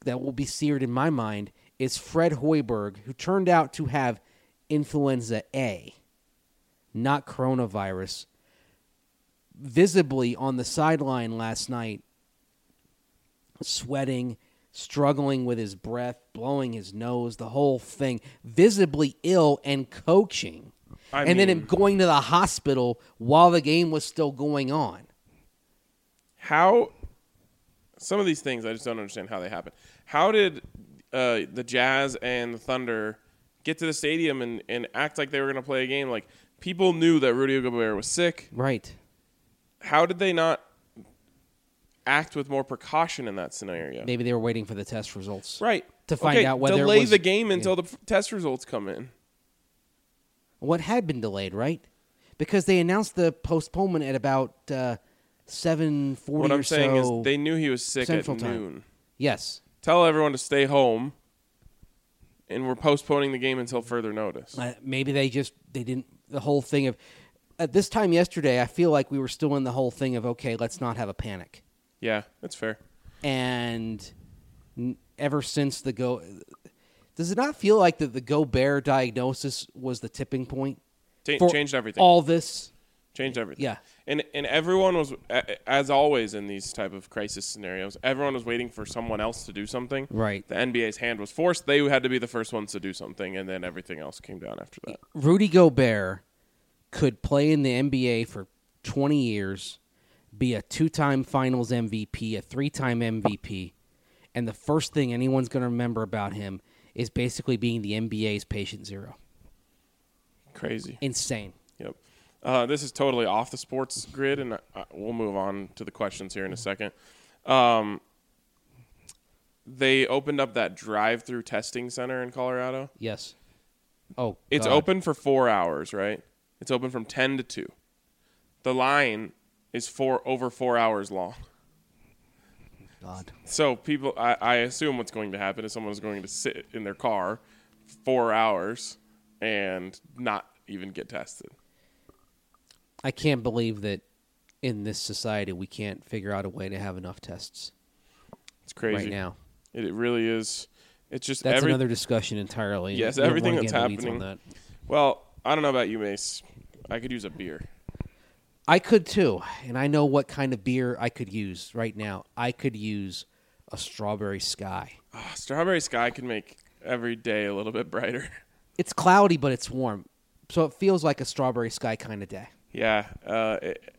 that will be seared in my mind is Fred Hoiberg, who turned out to have influenza A, not coronavirus, visibly on the sideline last night, sweating, struggling with his breath, blowing his nose, the whole thing, visibly ill and coaching. I and then mean- him going to the hospital while the game was still going on. How some of these things I just don't understand how they happen. How did uh, the Jazz and the Thunder get to the stadium and, and act like they were going to play a game? Like, people knew that Rudy Gobert was sick. Right. How did they not act with more precaution in that scenario? Maybe they were waiting for the test results. Right. To find okay, out whether it delay was- the game until yeah. the f- test results come in. What had been delayed, right? Because they announced the postponement at about uh, seven forty What or I'm saying so. is they knew he was sick Central at time. noon. Yes. Tell everyone to stay home, and we're postponing the game until further notice. Uh, maybe they just they didn't the whole thing of at this time yesterday. I feel like we were still in the whole thing of okay, let's not have a panic. Yeah, that's fair. And n- ever since the go, does it not feel like that the Gobert diagnosis was the tipping point? Ch- for changed everything. All this, Changed everything. Yeah. And and everyone was, a- as always in these type of crisis scenarios, everyone was waiting for someone else to do something. Right. The N B A's hand was forced. They had to be the first ones to do something, and then everything else came down after that. Rudy Gobert could play in the N B A for twenty years, be a two-time Finals M V P, a three-time M V P, and the first thing anyone's going to remember about him is basically being the N B A's patient zero. Crazy. Insane. Yep. Uh, this is totally off the sports grid, and uh, we'll move on to the questions here in a second. Um, they opened up that drive-through testing center in Colorado. Yes. Oh, It's God. open for four hours, right? It's open from ten to two. The line is four over four hours long. God. So people, I, I assume what's going to happen is someone is going to sit in their car four hours and not even get tested. I can't believe that in this society we can't figure out a way to have enough tests It's crazy right now. It, it really is. It's just That's every, another discussion entirely. Yes, We don't everything wanna that's get into the weeds on happening. that. Well, I don't know about you, Mace. I could use a beer. I could too, and I know what kind of beer I could use right now. I could use a strawberry sky. Oh, Strawberry Sky can make every day a little bit brighter. It's cloudy, but it's warm, so it feels like a strawberry sky kind of day. Yeah, uh, it,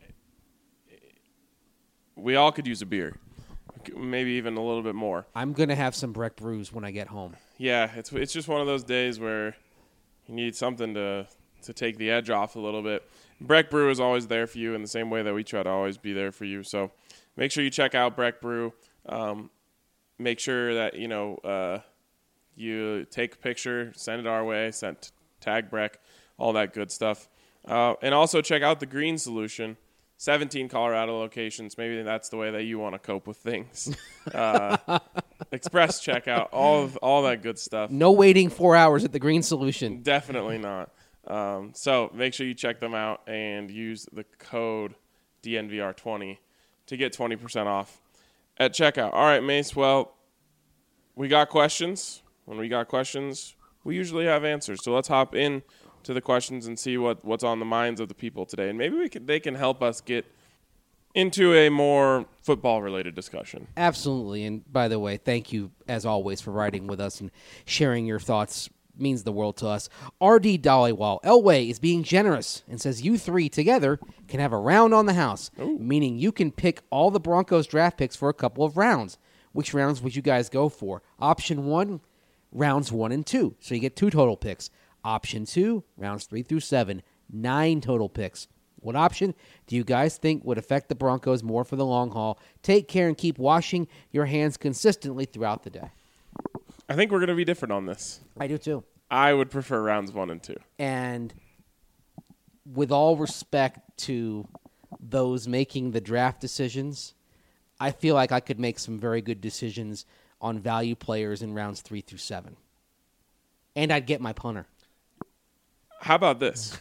we all could use a beer, maybe even a little bit more. I'm gonna have some Breck brews when I get home. Yeah, it's it's just one of those days where you need something to to take the edge off a little bit. Breck Brew is always there for you in the same way that we try to always be there for you. So make sure you check out Breck Brew. Um, make sure that you know uh, you take a picture, send it our way, send tag Breck, all that good stuff. Uh, and also check out the Green Solution, seventeen Colorado locations. Maybe that's the way that you want to cope with things. Uh, express checkout, all of all that good stuff. No waiting four hours at the Green Solution. Definitely not. Um, so make sure you check them out and use the code D N V R twenty to get twenty percent off at checkout. All right, Mace. Well, we got questions. When we got questions, we usually have answers. So let's hop in to the questions and see what, what's on the minds of the people today. And maybe we can, they can help us get into a more football-related discussion. Absolutely. And by the way, thank you, as always, for writing with us and sharing your thoughts. Means the world to us. R D Dollywall. Elway is being generous and says you three together can have a round on the house, Ooh. meaning you can pick all the Broncos draft picks for a couple of rounds. Which rounds would you guys go for? Option one, rounds one and two. So you get two total picks. Option two, rounds three through seven, nine total picks. What option do you guys think would affect the Broncos more for the long haul? Take care and keep washing your hands consistently throughout the day. I think we're going to be different on this. I do too. I would prefer rounds one and two. And with all respect to those making the draft decisions, I feel like I could make some very good decisions on value players in rounds three through seven. And I'd get my punter. How about this?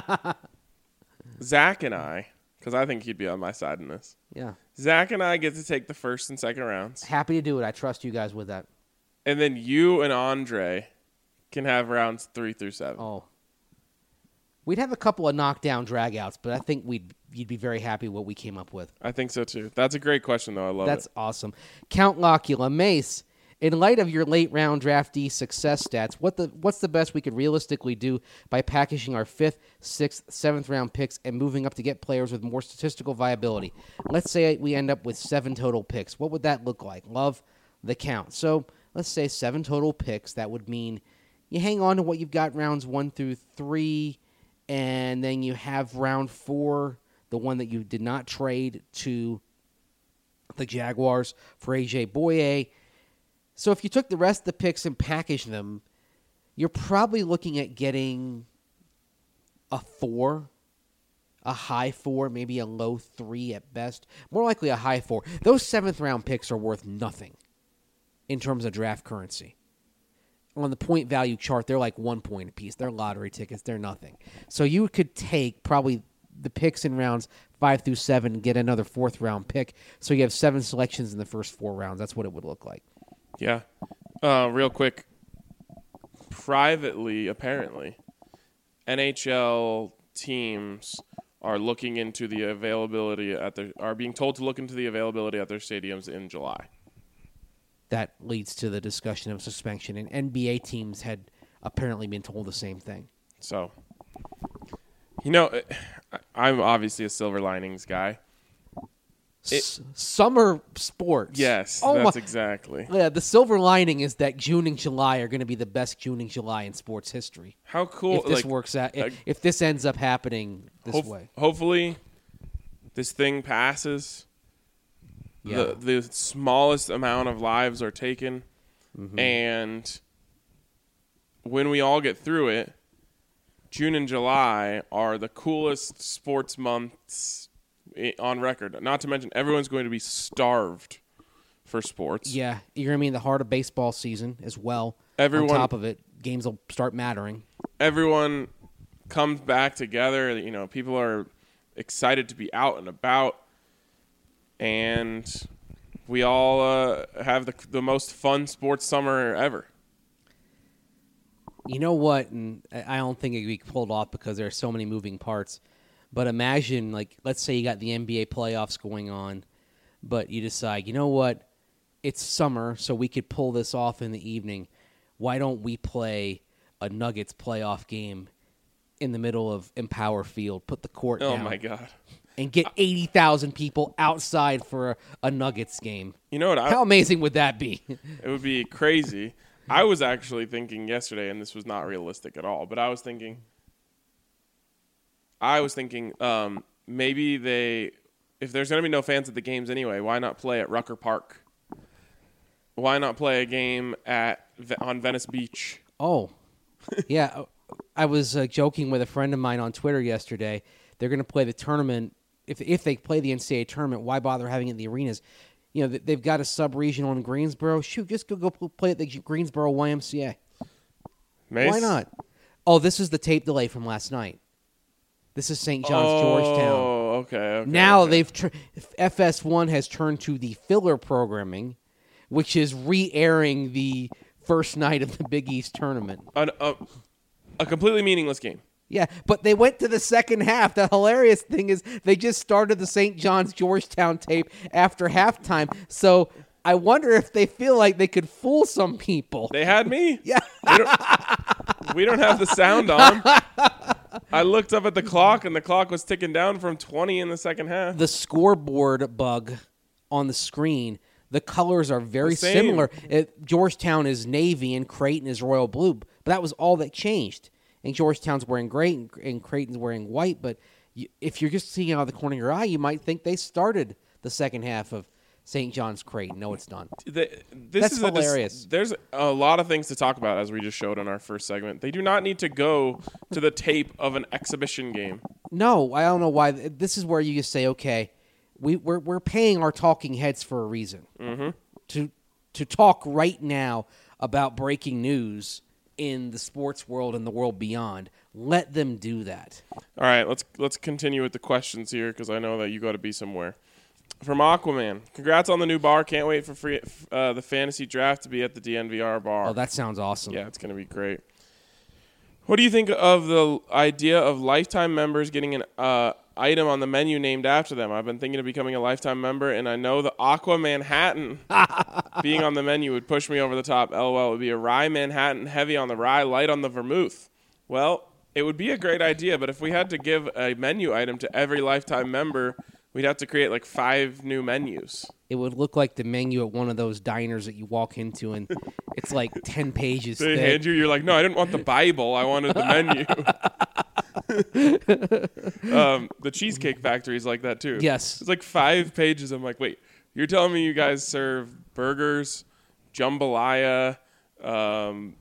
Zach and I, because I think he'd be on my side in this. Yeah. Zach and I get to take the first and second rounds. Happy to do it. I trust you guys with that. and then you and Andre can have rounds three through seven. Oh. We'd have a couple of knockdown dragouts, but I think we'd you'd be very happy what we came up with. I think so too. That's a great question, though. I love That's it. That's awesome. Count Locula, Mace, in light of your late round draftee success stats, what the what's the best we could realistically do by packaging our fifth, sixth, seventh round picks and moving up to get players with more statistical viability? Let's say we end up with seven total picks. What would that look like? Love the count. So let's say seven total picks. That would mean you hang on to what you've got rounds one through three. And then you have round four, the one that you did not trade to the Jaguars for A J Boye. So if you took the rest of the picks and packaged them, you're probably looking at getting a four, a high four, maybe a low three at best. More likely a high four. Those seventh round picks are worth nothing in terms of draft currency. On the point value chart, they're like one point apiece. They're lottery tickets. They're nothing. So you could take probably the picks in rounds five through seven and get another fourth round pick. So you have seven selections in the first four rounds. That's what it would look like. Yeah. Uh, real quick. Privately, apparently, N H L teams are looking into the availability at their are being told to look into the availability at their stadiums in July. That leads to the discussion of suspension, and N B A teams had apparently been told the same thing. So, you know, I'm obviously a silver linings guy. It, S- summer sports. Yes, oh that's my, exactly. Yeah, the silver lining is that June and July are going to be the best June and July in sports history. How cool! If this like, works out, uh, if, if this ends up happening this hope, way. Hopefully, this thing passes. Yeah. The, the smallest amount of lives are taken. Mm-hmm. And when we all get through it, June and July are the coolest sports months on record. Not to mention, everyone's going to be starved for sports. Yeah, you're going to be in the heart of baseball season as well. Everyone, on top of it, games will start mattering. Everyone comes back together. You know, people are excited to be out and about. And we all uh, have the the most fun sports summer ever. You know what? And I don't think it can be pulled off because there are so many moving parts. But imagine, like, let's say you got the N B A playoffs going on, but you decide, you know what? It's summer, so we could pull this off in the evening. Why don't we play a Nuggets playoff game in the middle of Empower Field? Put the court oh down. Oh, my God. And get eighty thousand people outside for a, a Nuggets game. You know what? I, How amazing would that be? It would be crazy. I was actually thinking yesterday, and this was not realistic at all, but I was thinking, I was thinking um, maybe they, if there's going to be no fans at the games anyway, why not play at Rucker Park? Why not play a game at on Venice Beach? Oh, yeah. I was uh, joking with a friend of mine on Twitter yesterday. They're going to play the tournament. If if they play the N C double A tournament, why bother having it in the arenas? You know, they've got a sub-regional in Greensboro. Shoot, just go, go play at the Greensboro Y M C A. Mace? Why not? Oh, this is the tape delay from last night. This is Saint John's, oh, Georgetown. Oh, okay, okay. Now okay. they've tr- F S one has turned to the filler programming, which is re-airing the first night of the Big East tournament. An, a, a completely meaningless game. Yeah, but they went to the second half. The hilarious thing is they just started the Saint John's Georgetown tape after halftime. So I wonder if they feel like they could fool some people. They had me. Yeah. We don't, we don't have the sound on. I looked up at the clock, and the clock was ticking down from twenty in the second half. The scoreboard bug on the screen, the colors are very similar. It, Georgetown is navy and Creighton is royal blue, but that was all that changed. And Georgetown's wearing gray and, and Creighton's wearing white, but you, if you're just seeing out of the corner of your eye, you might think they started the second half of Saint John's Creighton. No, it's not. The, this That's is hilarious. A, there's a lot of things to talk about, as we just showed in our first segment. They do not need to go to the tape of an exhibition game. No, I don't know why. This is where you just say, okay, we, we're we're paying our talking heads for a reason. Mm-hmm. To to talk right now about breaking news in the sports world and the world beyond. Let them do that. All right, let's let's continue with the questions here because I know that you got to be somewhere. From Aquaman. Congrats on the new bar. Can't wait for free, uh, the fantasy draft to be at the D N V R bar. Oh, that sounds awesome. Yeah, it's going to be great. What do you think of the idea of lifetime members getting an uh, item on the menu named after them? I've been thinking of becoming a lifetime member, and I know the Aqua Manhattan being on the menu would push me over the top. LOL, it would be a rye Manhattan, heavy on the rye, light on the vermouth. Well, it would be a great idea, but if we had to give a menu item to every lifetime member, we'd have to create like five new menus. It would look like the menu at one of those diners that you walk into, and it's like ten pages They thick. hand you, you're like, no, I didn't want the Bible. I wanted the menu. um, the Cheesecake Factory is like that too. Yes. It's like five pages. I'm like, wait, you're telling me you guys serve burgers, jambalaya, um,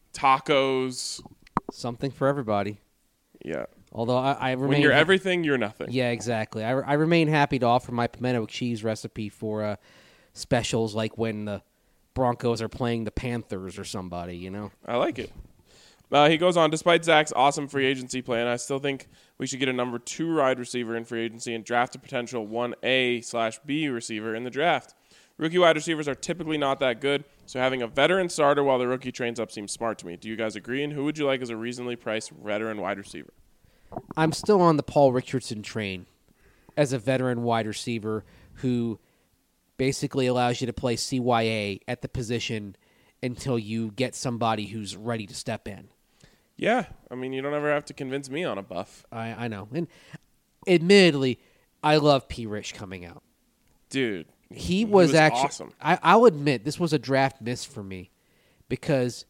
tacos? Something for everybody. Yeah. Although I, I remain When you're ha- everything, you're nothing. Yeah, exactly. I, I remain happy to offer my pimento cheese recipe for uh, specials like when the Broncos are playing the Panthers or somebody, you know? I like it. Uh, he goes on, despite Zach's awesome free agency plan, I still think we should get a number two wide receiver in free agency and draft a potential one A slash B receiver in the draft. Rookie wide receivers are typically not that good, so having a veteran starter while the rookie trains up seems smart to me. Do you guys agree? And who would you like as a reasonably priced veteran wide receiver? I'm still on the Paul Richardson train as a veteran wide receiver who basically allows you to play C Y A at the position until you get somebody who's ready to step in. Yeah, I mean, you don't ever have to convince me on a buff. I, I know. And admittedly, I love P. Rich coming out. Dude, He was, was actually awesome. I, I'll admit this was a draft miss for me because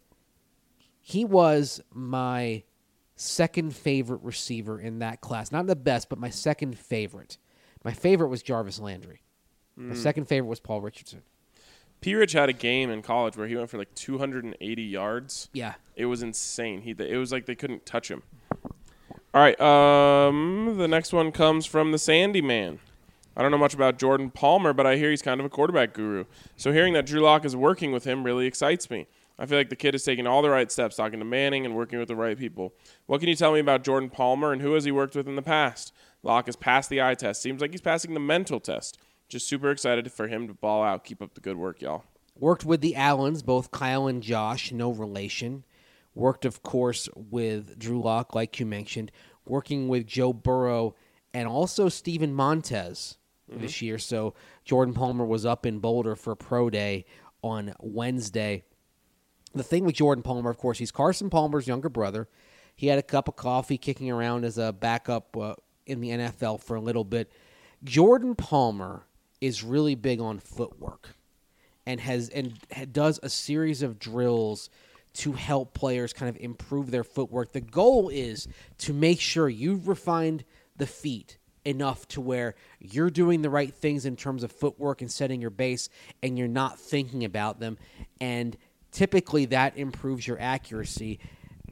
he was my second favorite receiver in that class. Not the best, but my second favorite. My favorite was Jarvis Landry. My second favorite was Paul Richardson. P. Rich had a game in college where he went for like two hundred eighty yards. Yeah. It was insane. He it was like they couldn't touch him. All right, um, the next one comes from the Sandy Man. I don't know much about Jordan Palmer, but I hear he's kind of a quarterback guru. So hearing that Drew Lock is working with him really excites me. I feel like the kid is taking all the right steps, talking to Manning and working with the right people. What can you tell me about Jordan Palmer and who has he worked with in the past? Lock has passed the eye test. Seems like he's passing the mental test. Just super excited for him to ball out. Keep up the good work, y'all. Worked with the Allens, both Kyle and Josh, no relation. Worked, of course, with Drew Lock, like you mentioned. Working with Joe Burrow and also Steven Montez mm-hmm. this year. So Jordan Palmer was up in Boulder for pro day on Wednesday. The thing with Jordan Palmer, of course, he's Carson Palmer's younger brother. He had a cup of coffee kicking around as a backup uh, in the N F L for a little bit. Jordan Palmer is really big on footwork and has and does a series of drills to help players kind of improve their footwork. The goal is to make sure you've refined the feet enough to where you're doing the right things in terms of footwork and setting your base, and you're not thinking about them. And typically that improves your accuracy.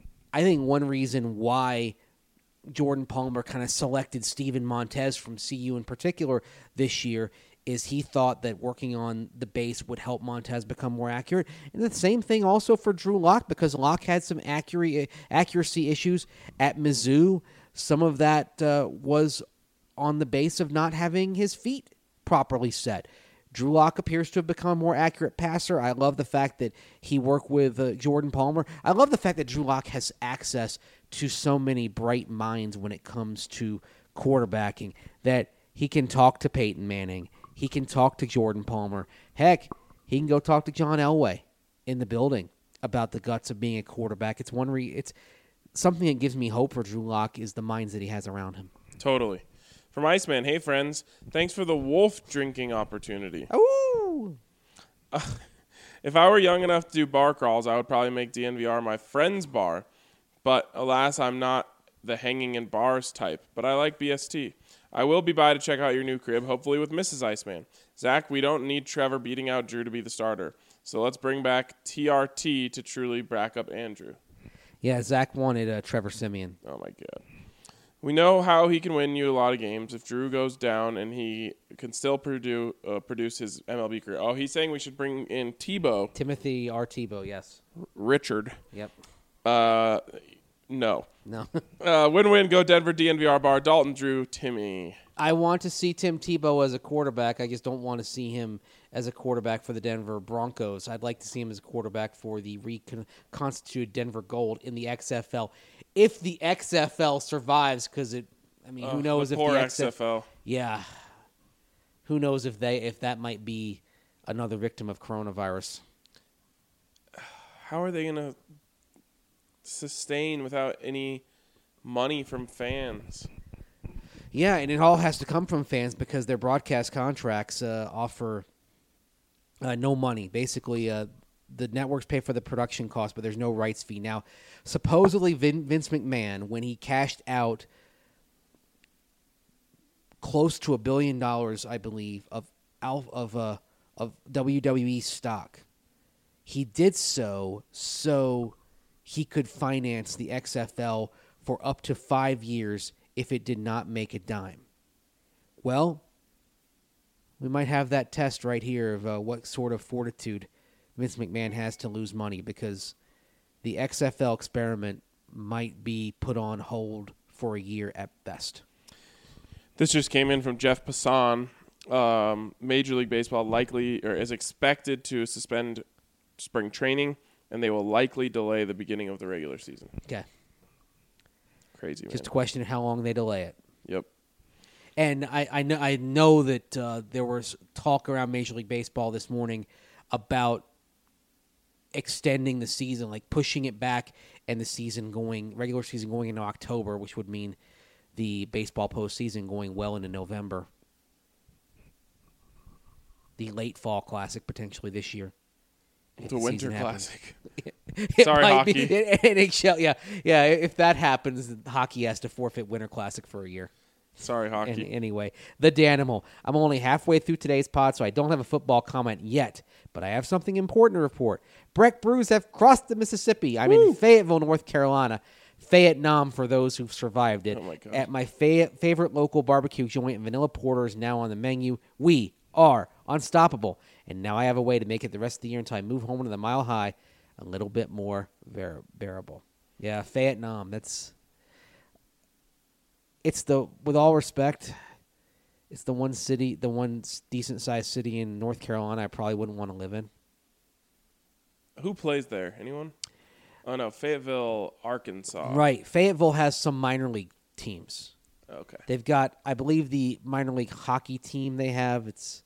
I think one reason why Jordan Palmer kind of selected Steven Montez from C U in particular this year is he thought that working on the base would help Montez become more accurate. And the same thing also for Drew Lock, because Lock had some accuracy, accuracy issues at Mizzou. Some of that uh, was on the base of not having his feet properly set. Drew Lock appears to have become a more accurate passer. I love the fact that he worked with uh, Jordan Palmer. I love the fact that Drew Lock has access to so many bright minds when it comes to quarterbacking, that he can talk to Peyton Manning. He can talk to Jordan Palmer. Heck, he can go talk to John Elway in the building about the guts of being a quarterback. It's one re- it's something that gives me hope for Drew Lock is the minds that he has around him. Totally. From Iceman, hey friends, thanks for the wolf drinking opportunity. Ooh. Uh, if I were young enough to do bar crawls, I would probably make D N V R my friend's bar. But alas, I'm not the hanging in bars type. But I like B S T. I will be by to check out your new crib, hopefully with Missus Iceman. Zach, we don't need Trevor beating out Drew to be the starter. So let's bring back T R T to truly back up Andrew. Yeah, Zach wanted uh, Trevor Siemian. Oh, my God. We know how he can win you a lot of games if Drew goes down and he can still produce, uh, produce his M L B career. Oh, he's saying we should bring in Tebow. Timothy R. Tebow, yes. Richard. Yep. Uh, no. No. uh, win-win, go Denver, D N V R bar, Dalton, Drew, Timmy. I want to see Tim Tebow as a quarterback. I just don't want to see him as a quarterback for the Denver Broncos. I'd like to see him as a quarterback for the reconstituted Denver Gold in the X F L. If the X F L survives, because it, I mean, Uh, who knows the if poor the X F L. Yeah. Who knows if they if that might be another victim of coronavirus. How are they going to sustain without any money from fans? Yeah, and it all has to come from fans because their broadcast contracts uh, offer uh, no money. Basically, uh, the networks pay for the production cost, but there's no rights fee. Now, supposedly Vin- Vince McMahon, when he cashed out close to a billion dollars, I believe, of of uh, of W W E stock, he did so so he could finance the X F L for up to five years if it did not make a dime. Well, we might have that test right here of uh, what sort of fortitude Vince McMahon has to lose money, because the X F L experiment might be put on hold for a year at best. This just came in from Jeff Passan. Um, Major League Baseball likely or is expected to suspend spring training, and they will likely delay the beginning of the regular season. Okay. Crazy, man. Just a question of how long they delay it. Yep. And I, I know I know that uh, there was talk around Major League Baseball this morning about extending the season, like pushing it back, and the season going regular season going into October, which would mean the baseball postseason going well into November. The late fall classic potentially this year. The Winter Classic. It Sorry, might hockey. Be, N H L, yeah, yeah. If that happens, hockey has to forfeit Winter Classic for a year. Sorry, hockey. Any, anyway, the Danimal. I'm only halfway through today's pod, so I don't have a football comment yet, but I have something important to report. Breck Brews have crossed the Mississippi. I'm Woo! in Fayetteville, North Carolina. Vietnam for those who've survived it. Oh my God. At my fa- favorite local barbecue joint, Vanilla Porter is now on the menu. We are unstoppable. And now I have a way to make it the rest of the year until I move home to the Mile High a little bit more bear- bearable. Yeah, Vietnam. That's it's the with all respect, it's the one city, the one decent sized city in North Carolina I probably wouldn't want to live in. Who plays there? Anyone? Oh no, Fayetteville, Arkansas. Right, Fayetteville has some minor league teams. Okay. They've got, I believe, the minor league hockey team they have. It's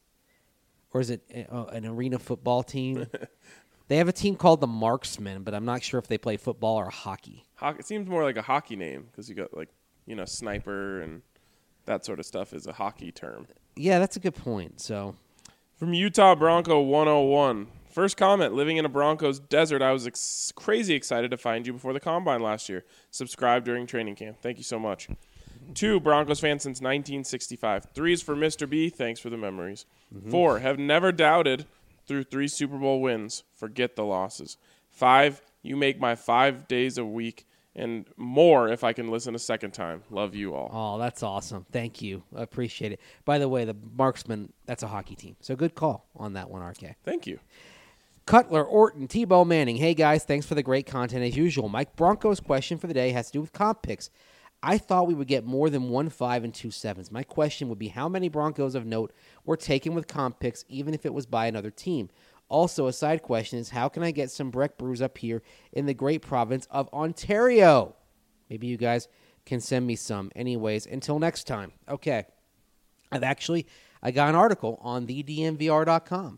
or is it uh, an arena football team? They have a team called the Marksmen, but I'm not sure if they play football or hockey. Hockey, it seems more like a hockey name because you got like, you know, sniper and that sort of stuff is a hockey term. Yeah, that's a good point. So, from Utah Bronco one oh one. First comment, living in a Broncos desert, I was ex- crazy excited to find you before the Combine last year. Subscribe during training camp. Thank you so much. Two, Broncos fan since nineteen sixty-five. Three is for Mister B. Thanks for the memories. Mm-hmm. Four, have never doubted through three Super Bowl wins. Forget the losses. Five, you make my five days a week and more if I can listen a second time. Love you all. Oh, that's awesome. Thank you. I appreciate it. By the way, the Marksmen, that's a hockey team. So good call on that one, R K. Thank you. Cutler, Orton, Tebow Manning. Hey, guys, thanks for the great content as usual. Mike Bronco's question for the day has to do with comp picks. I thought we would get more than one five and two sevens. My question would be how many Broncos of note were taken with comp picks, even if it was by another team? Also, a side question is how can I get some Breck Brews up here in the great province of Ontario? Maybe you guys can send me some. Anyways, until next time. Okay. I've actually, I got an article on the D N V R dot com.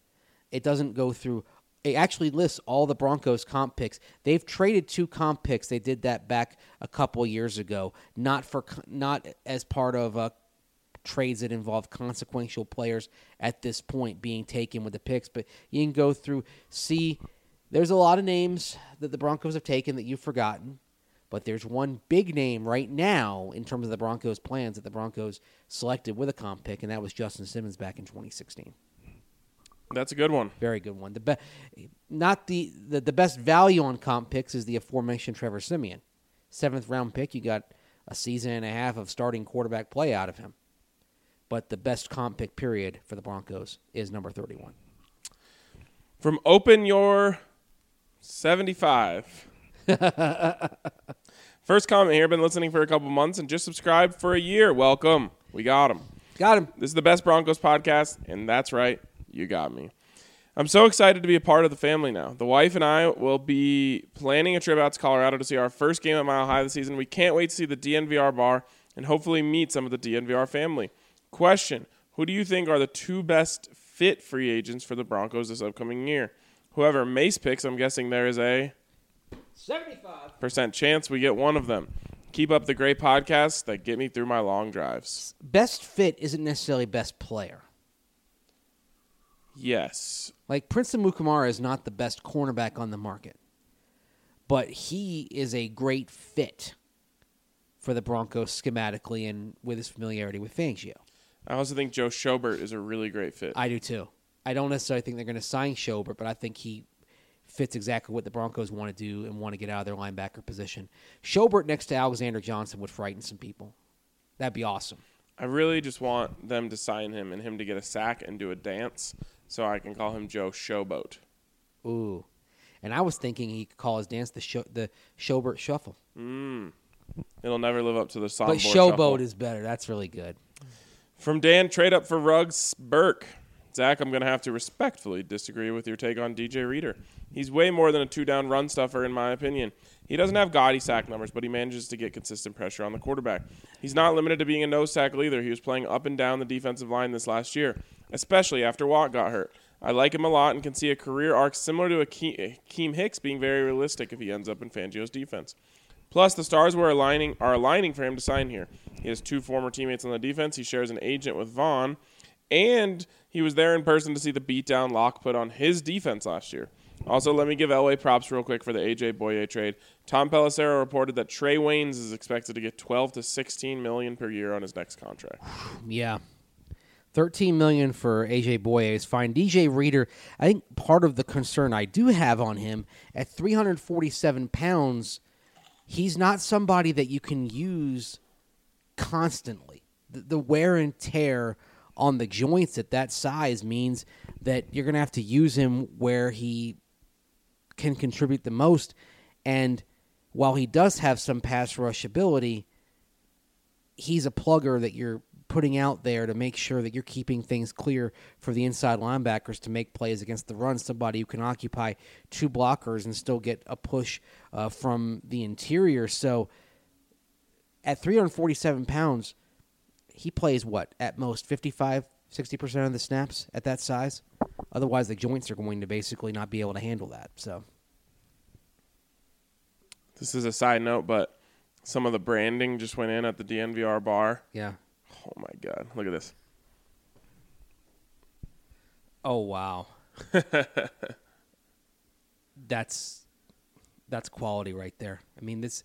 It doesn't go through. It actually lists all the Broncos comp picks. They've traded two comp picks. They did that back a couple years ago, not for not as part of uh, trades that involve consequential players at this point being taken with the picks. But you can go through, see, there's a lot of names that the Broncos have taken that you've forgotten. But there's one big name right now in terms of the Broncos' plans that the Broncos selected with a comp pick, and that was Justin Simmons back in twenty sixteen. That's a good one. Very good one. The be- not the, the the best value on comp picks is the aforementioned Trevor Siemian. Seventh round pick, you got a season and a half of starting quarterback play out of him. But the best comp pick period for the Broncos is number thirty-one. From Open Your seventy-five. First comment here. Been listening for a couple months and just subscribed for a year. Welcome. We got him. Got him. This is the Best Broncos podcast, and that's right, you got me. I'm so excited to be a part of the family now. The wife and I will be planning a trip out to Colorado to see our first game at Mile High this season. We can't wait to see the D N V R bar and hopefully meet some of the D N V R family. Question, who do you think are the two best fit free agents for the Broncos this upcoming year? Whoever Mace picks, I'm guessing there is a seventy-five percent chance we get one of them. Keep up the great podcasts that get me through my long drives. Best fit isn't necessarily best player. Yes. Like, Princeton Mukamara is not the best cornerback on the market, but he is a great fit for the Broncos schematically and with his familiarity with Fangio. I also think Joe Schobert is a really great fit. I do too. I don't necessarily think they're going to sign Schobert, but I think he fits exactly what the Broncos want to do and want to get out of their linebacker position. Schobert next to Alexander Johnson would frighten some people. That'd be awesome. I really just want them to sign him and him to get a sack and do a dance so I can call him Joe Showboat. Ooh. And I was thinking he could call his dance the Sho- the Schobert Shuffle. Mm. It'll never live up to the soundboard But shuffle. Showboat is better. That's really good. From Dan, trade up for Ruggs Burke. Zach, I'm going to have to respectfully disagree with your take on D J Reader. He's way more than a two-down run stuffer, in my opinion. He doesn't have gaudy sack numbers, but he manages to get consistent pressure on the quarterback. He's not limited to being a nose tackle either. He was playing up and down the defensive line this last year, especially after Watt got hurt. I like him a lot and can see a career arc similar to Akeem Hicks being very realistic if he ends up in Fangio's defense. Plus, the stars were aligning are aligning for him to sign here. He has two former teammates on the defense. He shares an agent with Vaughn, and he was there in person to see the beatdown Locke put on his defense last year. Also, let me give Elway props real quick for the A J Boye trade. Tom Pelissero reported that Trey Waynes is expected to get twelve to sixteen million dollars per year on his next contract. Yeah. thirteen million dollars for A J Boye is fine. D J Reader, I think part of the concern I do have on him, at three hundred forty-seven pounds, he's not somebody that you can use constantly. The, the wear and tear on the joints at that size means that you're going to have to use him where he can contribute the most. And while he does have some pass rush ability, he's a plugger that you're putting out there to make sure that you're keeping things clear for the inside linebackers to make plays against the run, somebody who can occupy two blockers and still get a push uh, from the interior. So at three hundred forty-seven pounds, he plays what, at most fifty-five, sixty percent of the snaps at that size? Otherwise, the joints are going to basically not be able to handle that. So This is a side note, but some of the branding just went in at the D N V R bar. yeah. Oh, my God. Look at this. Oh, wow. that's that's quality right there. I mean, this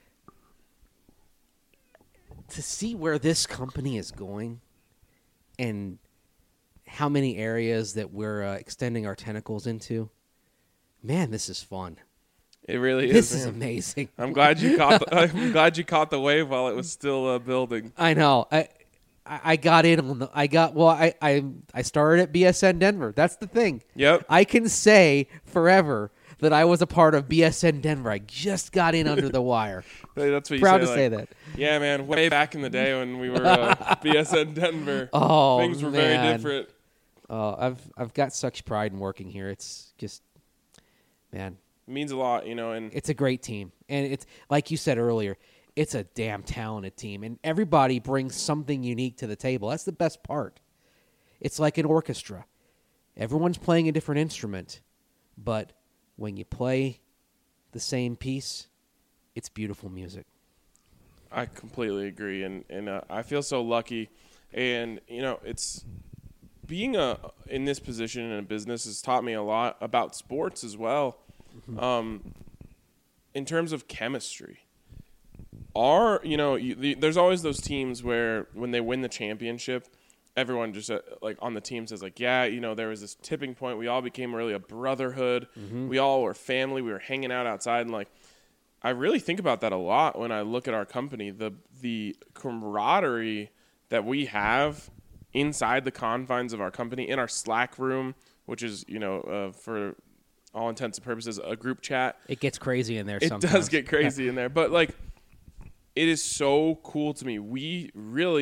to see where this company is going and how many areas that we're uh, extending our tentacles into. Man, this is fun. It really is. This is man. amazing. I'm glad you caught. The, I'm glad you caught the wave while it was still uh, building. I know. I I got in on the. I got well. I I I started at B S N Denver. That's the thing. Yep. I can say forever that I was a part of B S N Denver. I just got in under the wire. That's what you Proud say, to like, say that. Yeah, man. Way back in the day when we were uh, B S N Denver, Oh, things were man. very different. Oh, I've I've got such pride in working here. It's just, man, It means a lot, you know. And it's a great team, and it's like you said earlier, it's a damn talented team, and everybody brings something unique to the table. That's the best part. It's like an orchestra. Everyone's playing a different instrument, but when you play the same piece, it's beautiful music. I completely agree, and and uh, I feel so lucky, and you know, it's being a in this position in a business has taught me a lot about sports as well. Mm-hmm. Um, in terms of chemistry, are you know, you, the, there's always those teams where when they win the championship, everyone just uh, like on the team says like, yeah, you know, there was this tipping point. We all became really a brotherhood. Mm-hmm. We all were family. We were hanging out outside, and like, I really think about that a lot when I look at our company. The the camaraderie that we have inside the confines of our company, in our Slack room, which is, you know, uh, for all intents and purposes, a group chat. It gets crazy in there It sometimes. does get crazy in there. But, like, it is so cool to me. We really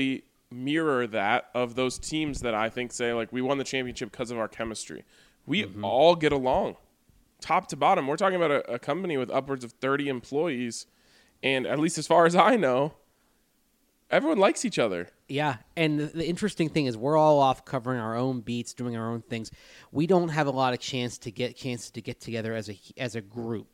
mirror that of those teams that I think say, like, we won the championship because of our chemistry. We Mm-hmm. all get along, top to bottom. We're talking about a, a company with upwards of thirty employees, and at least as far as I know, everyone likes each other. Yeah, and the, the interesting thing is we're all off covering our own beats, doing our own things. We don't have a lot of chance to get chances to get together as a as a group.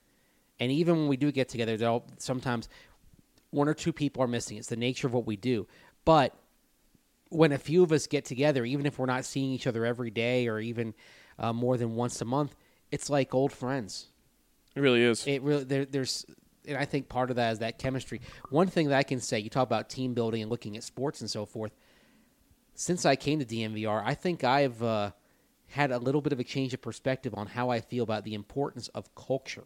And even when we do get together, there'll sometimes one or two people are missing. It's the nature of what we do. But when a few of us get together, even if we're not seeing each other every day or even uh, more than once a month, it's like old friends. It really is. It really there, there's, and I think part of that is that chemistry. One thing that I can say, you talk about team building and looking at sports and so forth. Since I came to D N V R, I think I've uh, had a little bit of a change of perspective on how I feel about the importance of culture.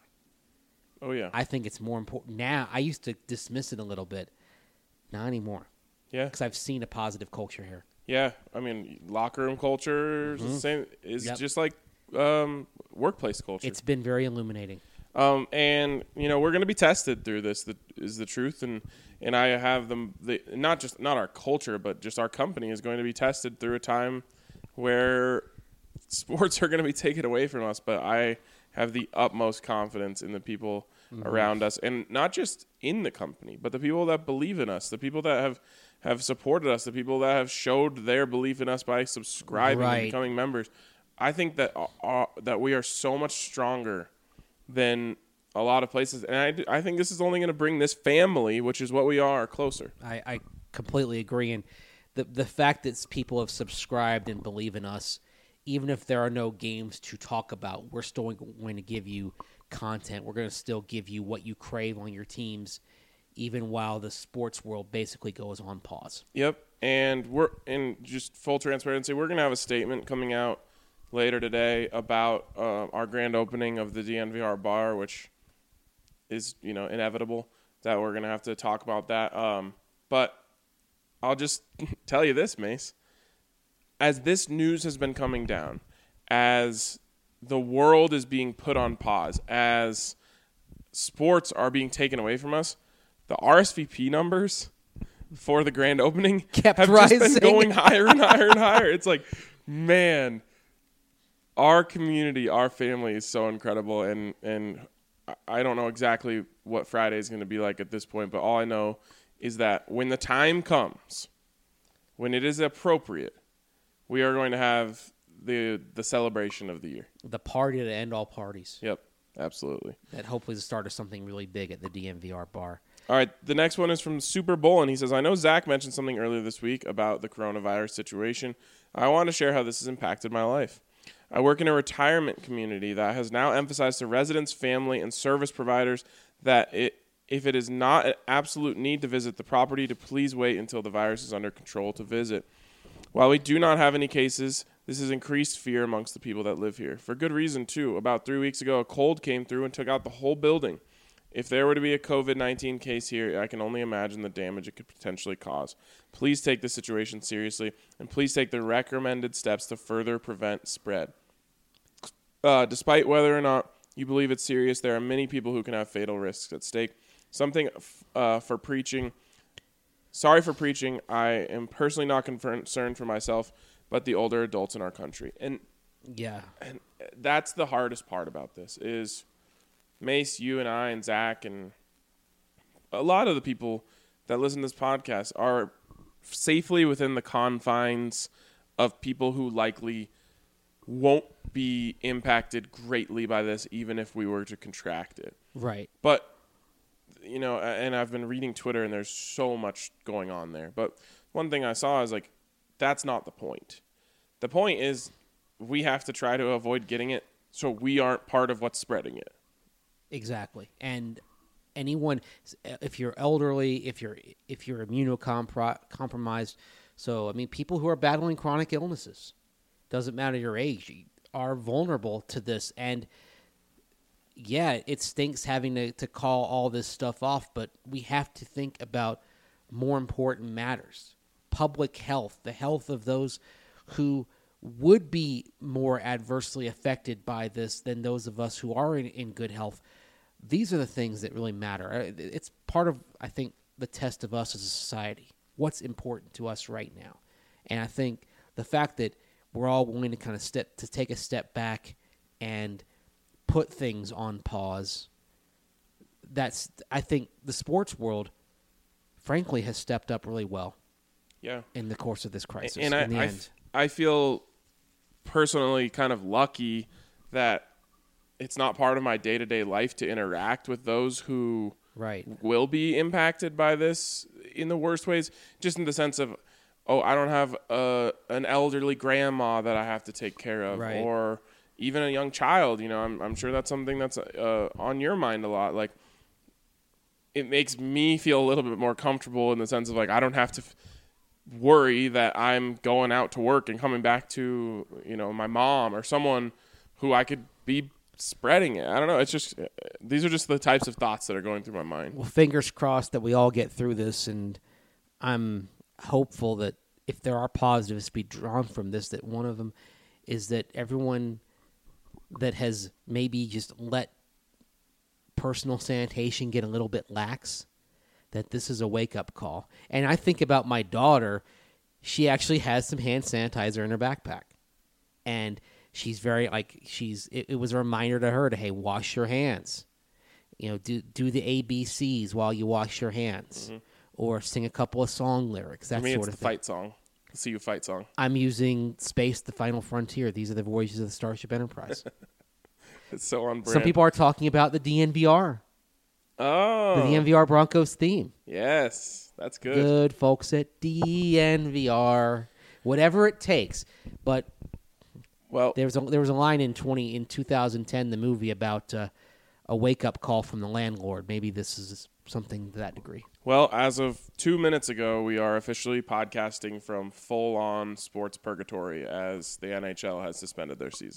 Oh, yeah. I think it's more important now. I used to dismiss it a little bit, not anymore, yeah. because I've seen a positive culture here. Yeah. I mean, locker room culture is the same. Is Yep. just like um, workplace culture. It's been very illuminating. Um, and you know, we're going to be tested through this. That is the truth, and and I have them. The, not just not our culture, but just our company is going to be tested through a time where sports are going to be taken away from us. But I have the utmost confidence in the people mm-hmm. around us, and not just in the company, but the people that believe in us, the people that have have supported us, the people that have showed their belief in us by subscribing Right. and becoming members. I think that uh, that we are so much stronger than a lot of places. And I, do- I think this is only going to bring this family, which is what we are, closer. I, I completely agree. And the the fact that people have subscribed and believe in us, even if there are no games to talk about, we're still going to give you content. We're going to still give you what you crave on your teams, even while the sports world basically goes on pause. Yep. And we're in just full transparency, we're going to have a statement coming out later today about uh, our grand opening of the D N V R bar, which is, you know, inevitable that we're going to have to talk about that. Um, but I'll just tell you this, Mace. As this news has been coming down, as the world is being put on pause, as sports are being taken away from us, the R S V P numbers for the grand opening Kept have rising. just been going higher and higher and higher. It's like, man, our community, our family is so incredible, and and I don't know exactly what Friday is going to be like at this point, but all I know is that when the time comes, when it is appropriate, we are going to have the the celebration of the year. The party to end all parties. Yep, absolutely. That hopefully is the start of something really big at the D N V R bar. All right, the next one is from Super Bowl, and he says, I know Zach mentioned something earlier this week about the coronavirus situation. I want to share how this has impacted my life. I work in a retirement community that has now emphasized to residents, family, and service providers that it, if it is not an absolute need to visit the property, to please wait until the virus is under control to visit. While we do not have any cases, this has increased fear amongst the people that live here. For good reason, too. About three weeks ago, a cold came through and took out the whole building. If there were to be a covid nineteen case here, I can only imagine the damage it could potentially cause. Please take the situation seriously, and please take the recommended steps to further prevent spread. Uh, despite whether or not you believe it's serious, there are many people who can have fatal risks at stake. Something uh, for preaching. Sorry for preaching. I am personally not concerned for myself, but the older adults in our country. And Yeah. and that's the hardest part about this is Mace, you and I and Zach and a lot of the people that listen to this podcast are safely within the confines of people who likely won't be impacted greatly by this, even if we were to contract it. Right. But, you know, and I've been reading Twitter and there's so much going on there. But one thing I saw is like, that's not the point. The point is we have to try to avoid getting it so we aren't part of what's spreading it. Exactly. And anyone, if you're elderly, if you're if you're immunocompromised, so I mean, people who are battling chronic illnesses, doesn't matter your age, are vulnerable to this. And yeah, it stinks having to, to call all this stuff off, but we have to think about more important matters. Public health, the health of those who would be more adversely affected by this than those of us who are in, in good health. These are the things that really matter. It's part of, I think, the test of us as a society. what's important to us right now. And I think the fact that we're all willing to kind of step to take a step back and put things on pause, that's I think the sports world, frankly, has stepped up really well. Yeah. In the course of this crisis. And in I, the I, end. f- I feel personally kind of lucky that it's not part of my day-to-day life to interact with those who Right. will be impacted by this in the worst ways, just in the sense of, oh, I don't have a, an elderly grandma that I have to take care of, Right. or even a young child. You know, I'm, I'm sure that's something that's uh, on your mind a lot. Like, it makes me feel a little bit more comfortable in the sense of, like, I don't have to f- worry that I'm going out to work and coming back to, you know, my mom or someone who I could be spreading it. I don't know. It's just, uh, these are just the types of thoughts that are going through my mind. Well, fingers crossed that we all get through this, and I'm hopeful that if there are positives to be drawn from this, that one of them is that everyone that has maybe just let personal sanitation get a little bit lax, that this is a wake-up call. And I think about my daughter. She actually has some hand sanitizer in her backpack. And she's very, like, she's, it, it was a reminder to her to, hey, wash your hands. You know, do do the A B Cs while you wash your hands. Mm-hmm. Or sing a couple of song lyrics, that For me, sort it's of the thing. fight song. The See You Fight song. I'm using Space, the Final Frontier. These are the voyages of the Starship Enterprise. It's so on brand. Some people are talking about the D N V R, Oh. the D N V R Broncos theme. Yes. That's good. Good folks at D N V R, whatever it takes. But Well, there was a, there was a line in twenty in two thousand ten, the movie, about uh, a wake up call from the landlord. Maybe this is something to that degree. well, as of two minutes ago, we are officially podcasting from full-on sports purgatory as the N H L has suspended their season.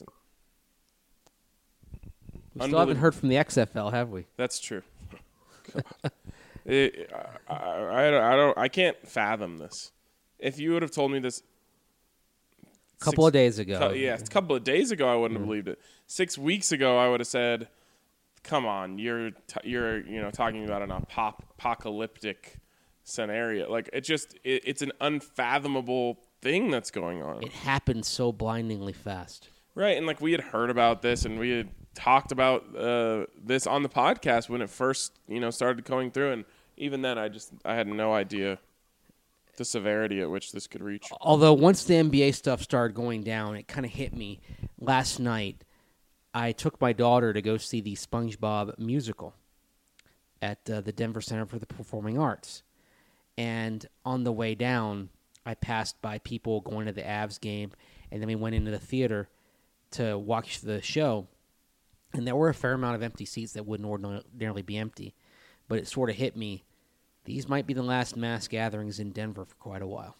We still haven't heard from the X F L, have we? That's true. God. It, I, I, I, don't, I don't. I can't fathom this. If you would have told me this A couple six- of days ago. cou- yeah, a couple of days ago, I wouldn't Mm-hmm. have believed it. Six weeks ago, I would have said, "Come on, you're t- you're you know talking about an apop- apocalyptic scenario. Like it just it, it's an unfathomable thing that's going on." It happened so blindingly fast. Right, and like we had heard about this, and we had talked about uh, this on the podcast when it first, you know, started going through, and even then, I just I had no idea the severity at which this could reach. Although once the N B A stuff started going down, it kind of hit me. Last night, I took my daughter to go see the SpongeBob musical at uh, the Denver Center for the Performing Arts, and on the way down, I passed by people going to the Avs game, and then we went into the theater to watch the show, and there were a fair amount of empty seats that wouldn't ordinarily be empty, but it sort of hit me. These might be the last mass gatherings in Denver for quite a while.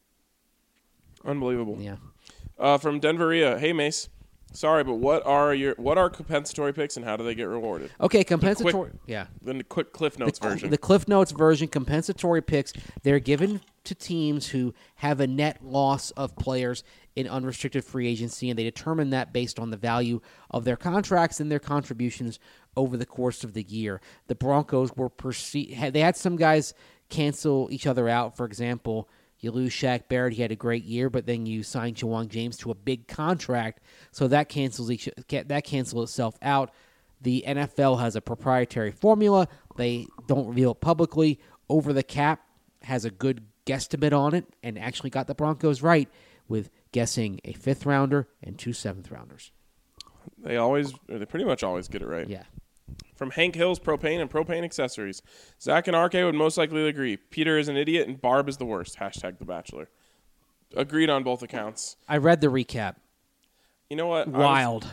Unbelievable. Yeah. Uh, from Denveria, hey Mace, sorry, but what are your what are compensatory picks and how do they get rewarded? Okay, compensatory. Yeah. Then the quick Cliff Notes the, version. The Cliff Notes version, compensatory picks, they're given to teams who have a net loss of players in unrestricted free agency, and they determine that based on the value of their contracts and their contributions over the course of the year. The Broncos were perceived, they had some guys cancel each other out. For example, you lose Shaq Barrett, he had a great year, but then you sign Jawon James to a big contract, so that cancels each that cancels itself out. The N F L has a proprietary formula. They don't reveal it publicly. Over the Cap has a good guesstimate on it and actually got the Broncos right with guessing a fifth rounder and two seventh rounders. They always, or they pretty much always get it right. Yeah. From Hank Hill's Propane and Propane Accessories. Zach and R K would most likely agree. Peter is an idiot and Barb is the worst. Hashtag The Bachelor. Agreed on both accounts. I read the recap. You know what? I was- Wild.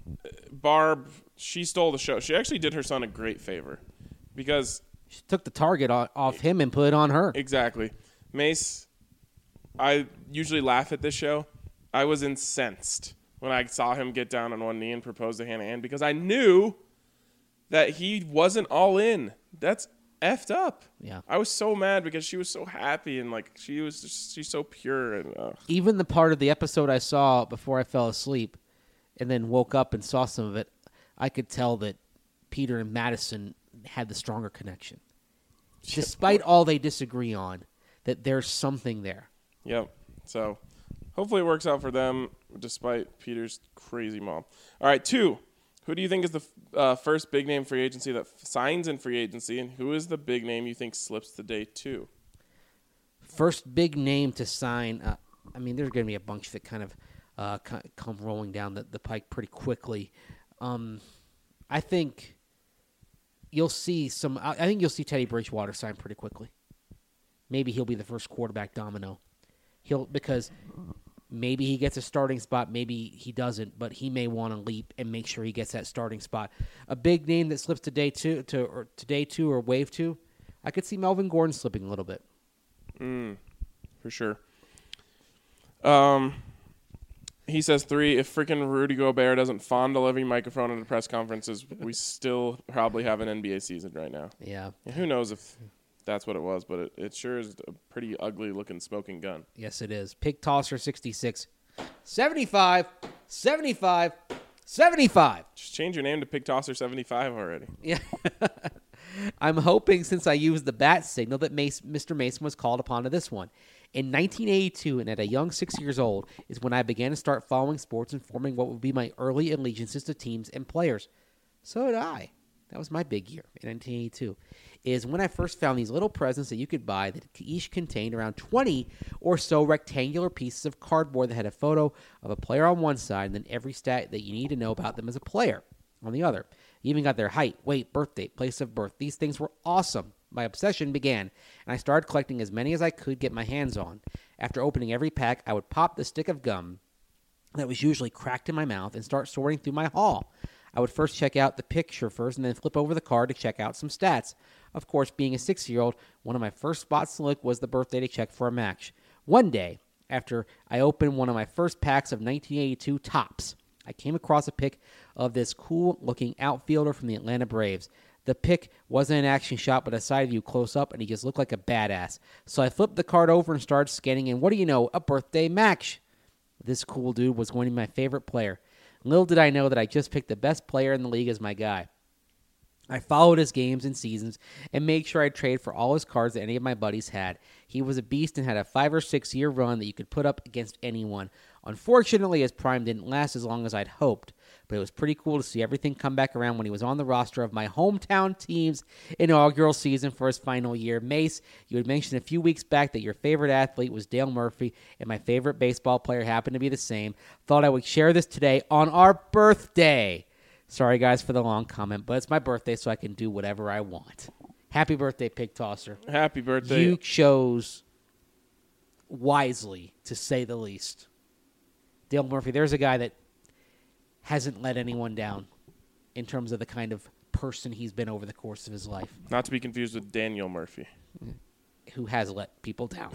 Barb, she stole the show. She actually did her son a great favor because She took the target o- off him and put it on her. exactly, Mace. I usually laugh at this show. I was incensed when I saw him get down on one knee and propose to Hannah Ann because I knew that he wasn't all in. That's effed up. Yeah. I was so mad because she was so happy and like she was just, she's so pure and uh, Even the part of the episode I saw before I fell asleep and then woke up and saw some of it, I could tell that Peter and Madison had the stronger connection. Despite all they disagree on, that there's something there. Yep. So hopefully it works out for them despite Peter's crazy mom. All right, two. Who do you think is the uh, first big name free agency that f- signs in free agency, and who is the big name you think slips to day two? First big name to sign. Uh, I mean, there's going to be a bunch that kind of uh, come rolling down the, the pike pretty quickly. Um, I think you'll see some. I think you'll see Teddy Bridgewater sign pretty quickly. Maybe he'll be the first quarterback domino. He'll because maybe he gets a starting spot, maybe he doesn't, but he may want to leap and make sure he gets that starting spot. A big name that slips to day two, to or to day two or wave two, I could see Melvin Gordon slipping a little bit. Mm, for sure. Um, he says three. If freaking Rudy Gobert doesn't fondle every microphone at the press conferences, we still probably have an N B A season right now. Yeah. And who knows if that's what it was, but it, it sure is a pretty ugly-looking smoking gun. Yes, it is. Pig Tosser sixty-six. seventy-five, seventy-five, seventy-five. Just change your name to Pig Tosser seventy-five already. Yeah. I'm hoping since I used the bat signal that Mace, Mister Mason was called upon to this one. In nineteen eighty-two, and at a young six years old, is when I began to start following sports and forming what would be my early allegiances to teams and players. So did I. That was my big year in nineteen eighty-two. Is when I first found these little presents that you could buy that each contained around twenty or so rectangular pieces of cardboard that had a photo of a player on one side and then every stat that you need to know about them as a player on the other. You even got their height, weight, birth date, place of birth. These things were awesome. My obsession began, and I started collecting as many as I could get my hands on. After opening every pack, I would pop the stick of gum that was usually cracked in my mouth and start sorting through my haul. I would first check out the picture first and then flip over the card to check out some stats. Of course, being a six-year-old, one of my first spots to look was the birthday to check for a match. One day, after I opened one of my first packs of nineteen eighty-two Topps, I came across a pic of this cool-looking outfielder from the Atlanta Braves. The pic wasn't an action shot, but a side view close up, and he just looked like a badass. So I flipped the card over and started scanning, and what do you know? A birthday match. This cool dude was going to be my favorite player. Little did I know that I just picked the best player in the league as my guy. I followed his games and seasons and made sure I traded for all his cards that any of my buddies had. He was a beast and had a five or six year run that you could put up against anyone. Unfortunately, his prime didn't last as long as I'd hoped, but it was pretty cool to see everything come back around when he was on the roster of my hometown team's inaugural season for his final year. Mace, you had mentioned a few weeks back that your favorite athlete was Dale Murphy, and my favorite baseball player happened to be the same. Thought I would share this today on our birthday. Sorry, guys, for the long comment, but it's my birthday, so I can do whatever I want. Happy birthday, Pig Tosser. Happy birthday. You chose wisely, to say the least. Dale Murphy, there's a guy that hasn't let anyone down in terms of the kind of person he's been over the course of his life. Not to be confused with Daniel Murphy. Who has let people down.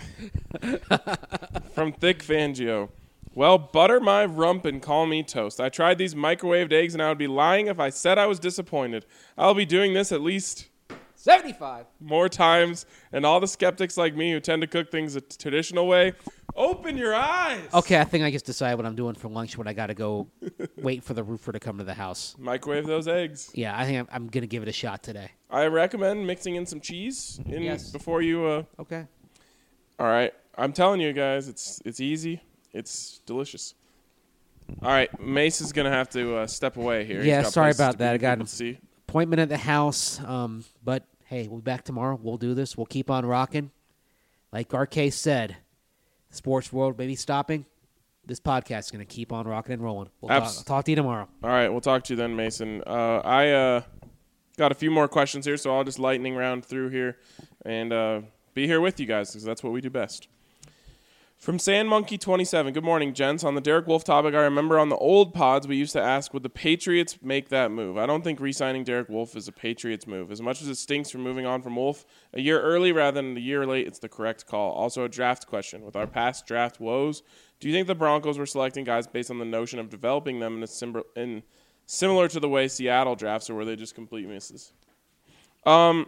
From Thick Fangio. Well, butter my rump and call me toast. I tried these microwaved eggs, and I would be lying if I said I was disappointed. I'll be doing this at least seventy-five more times, and all the skeptics like me who tend to cook things a traditional way, open your eyes. Okay, I think I just decided what I'm doing for lunch when I got to go wait for the roofer to come to the house. Microwave those eggs. Yeah, I think I'm, I'm going to give it a shot today. I recommend mixing in some cheese in Yes. before you. Uh, Okay. all right, I'm telling you guys, it's it's easy. It's delicious. All right, Mace is going to have to uh, step away here. He's Yeah, got sorry places about to be that. I for got people to see. appointment at the house, um, but hey, we'll be back tomorrow. We'll do this. We'll keep on rocking. Like R K said, the sports world may be stopping. This podcast is going to keep on rocking and rolling. We'll talk, Abs- I'll talk to you tomorrow. All right, we'll talk to you then, Mason. Uh, I uh, got a few more questions here, so I'll just lightning round through here and uh, be here with you guys because that's what we do best. From Sand Monkey twenty-seven, good morning, gents. On the Derek Wolfe topic, I remember on the old pods we used to ask, would the Patriots make that move? I don't think re-signing Derek Wolfe is a Patriots move. As much as it stinks from moving on from Wolfe a year early rather than a year late, it's the correct call. Also, a draft question. With our past draft woes, do you think the Broncos were selecting guys based on the notion of developing them in, a sim- in similar to the way Seattle drafts, or were they just complete misses? Um,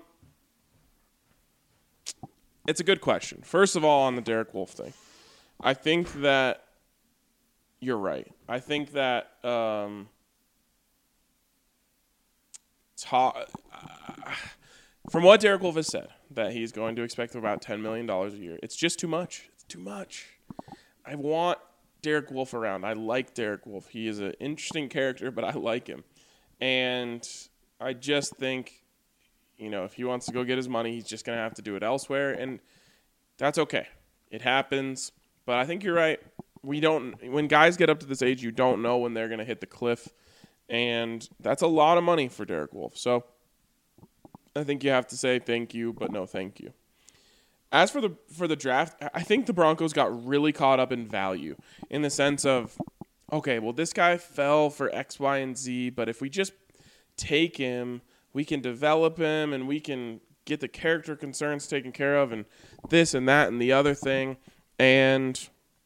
it's a good question. First of all, on the Derek Wolfe thing. I think that you're right. I think that um, ta- uh, from what Derek Wolfe has said, that he's going to expect about ten million dollars a year. It's just too much. It's too much. I want Derek Wolfe around. I like Derek Wolfe. He is an interesting character, but I like him. And I just think, you know, if he wants to go get his money, he's just going to have to do it elsewhere. And that's okay. It happens. But I think you're right. We don't, when guys get up to this age, you don't know when they're going to hit the cliff. And that's a lot of money for Derek Wolfe. So I think you have to say thank you, but no thank you. As for the for the draft, I think the Broncos got really caught up in value in the sense of, okay, well, this guy fell for X, Y, and Z, but if we just take him, we can develop him and we can get the character concerns taken care of and this and that and the other thing. And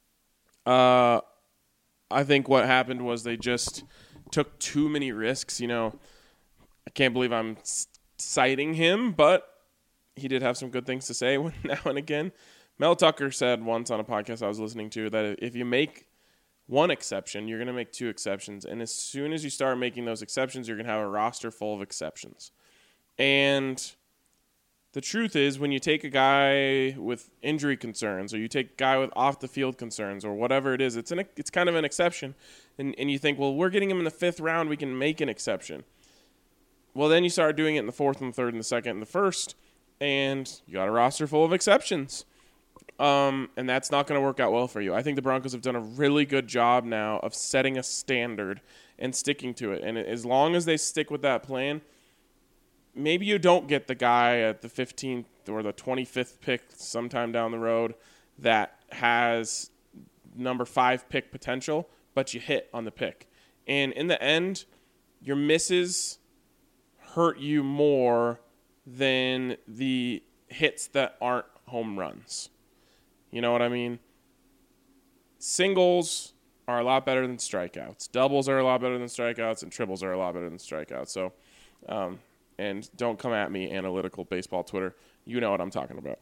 uh, I think what happened was they just took too many risks. You know, I can't believe I'm citing him, but he did have some good things to say now and again. Mel Tucker said once on a podcast I was listening to that if you make one exception, you're going to make two exceptions. And as soon as you start making those exceptions, you're going to have a roster full of exceptions. And the truth is, when you take a guy with injury concerns or you take a guy with off-the-field concerns or whatever it is, it's an, it's kind of an exception. And, and you think, well, we're getting him in the fifth round, we can make an exception. Well, then you start doing it in the fourth and the third and the second and the first, and you got a roster full of exceptions. Um, and that's not going to work out well for you. I think the Broncos have done a really good job now of setting a standard and sticking to it. And as long as they stick with that plan, maybe you don't get the guy at the fifteenth or the twenty-fifth pick sometime down the road that has number five pick potential, but you hit on the pick. And in the end, your misses hurt you more than the hits that aren't home runs. You know what I mean? Singles are a lot better than strikeouts. Doubles are a lot better than strikeouts, and triples are a lot better than strikeouts. So, um, and don't come at me, analytical baseball Twitter. You know what I'm talking about.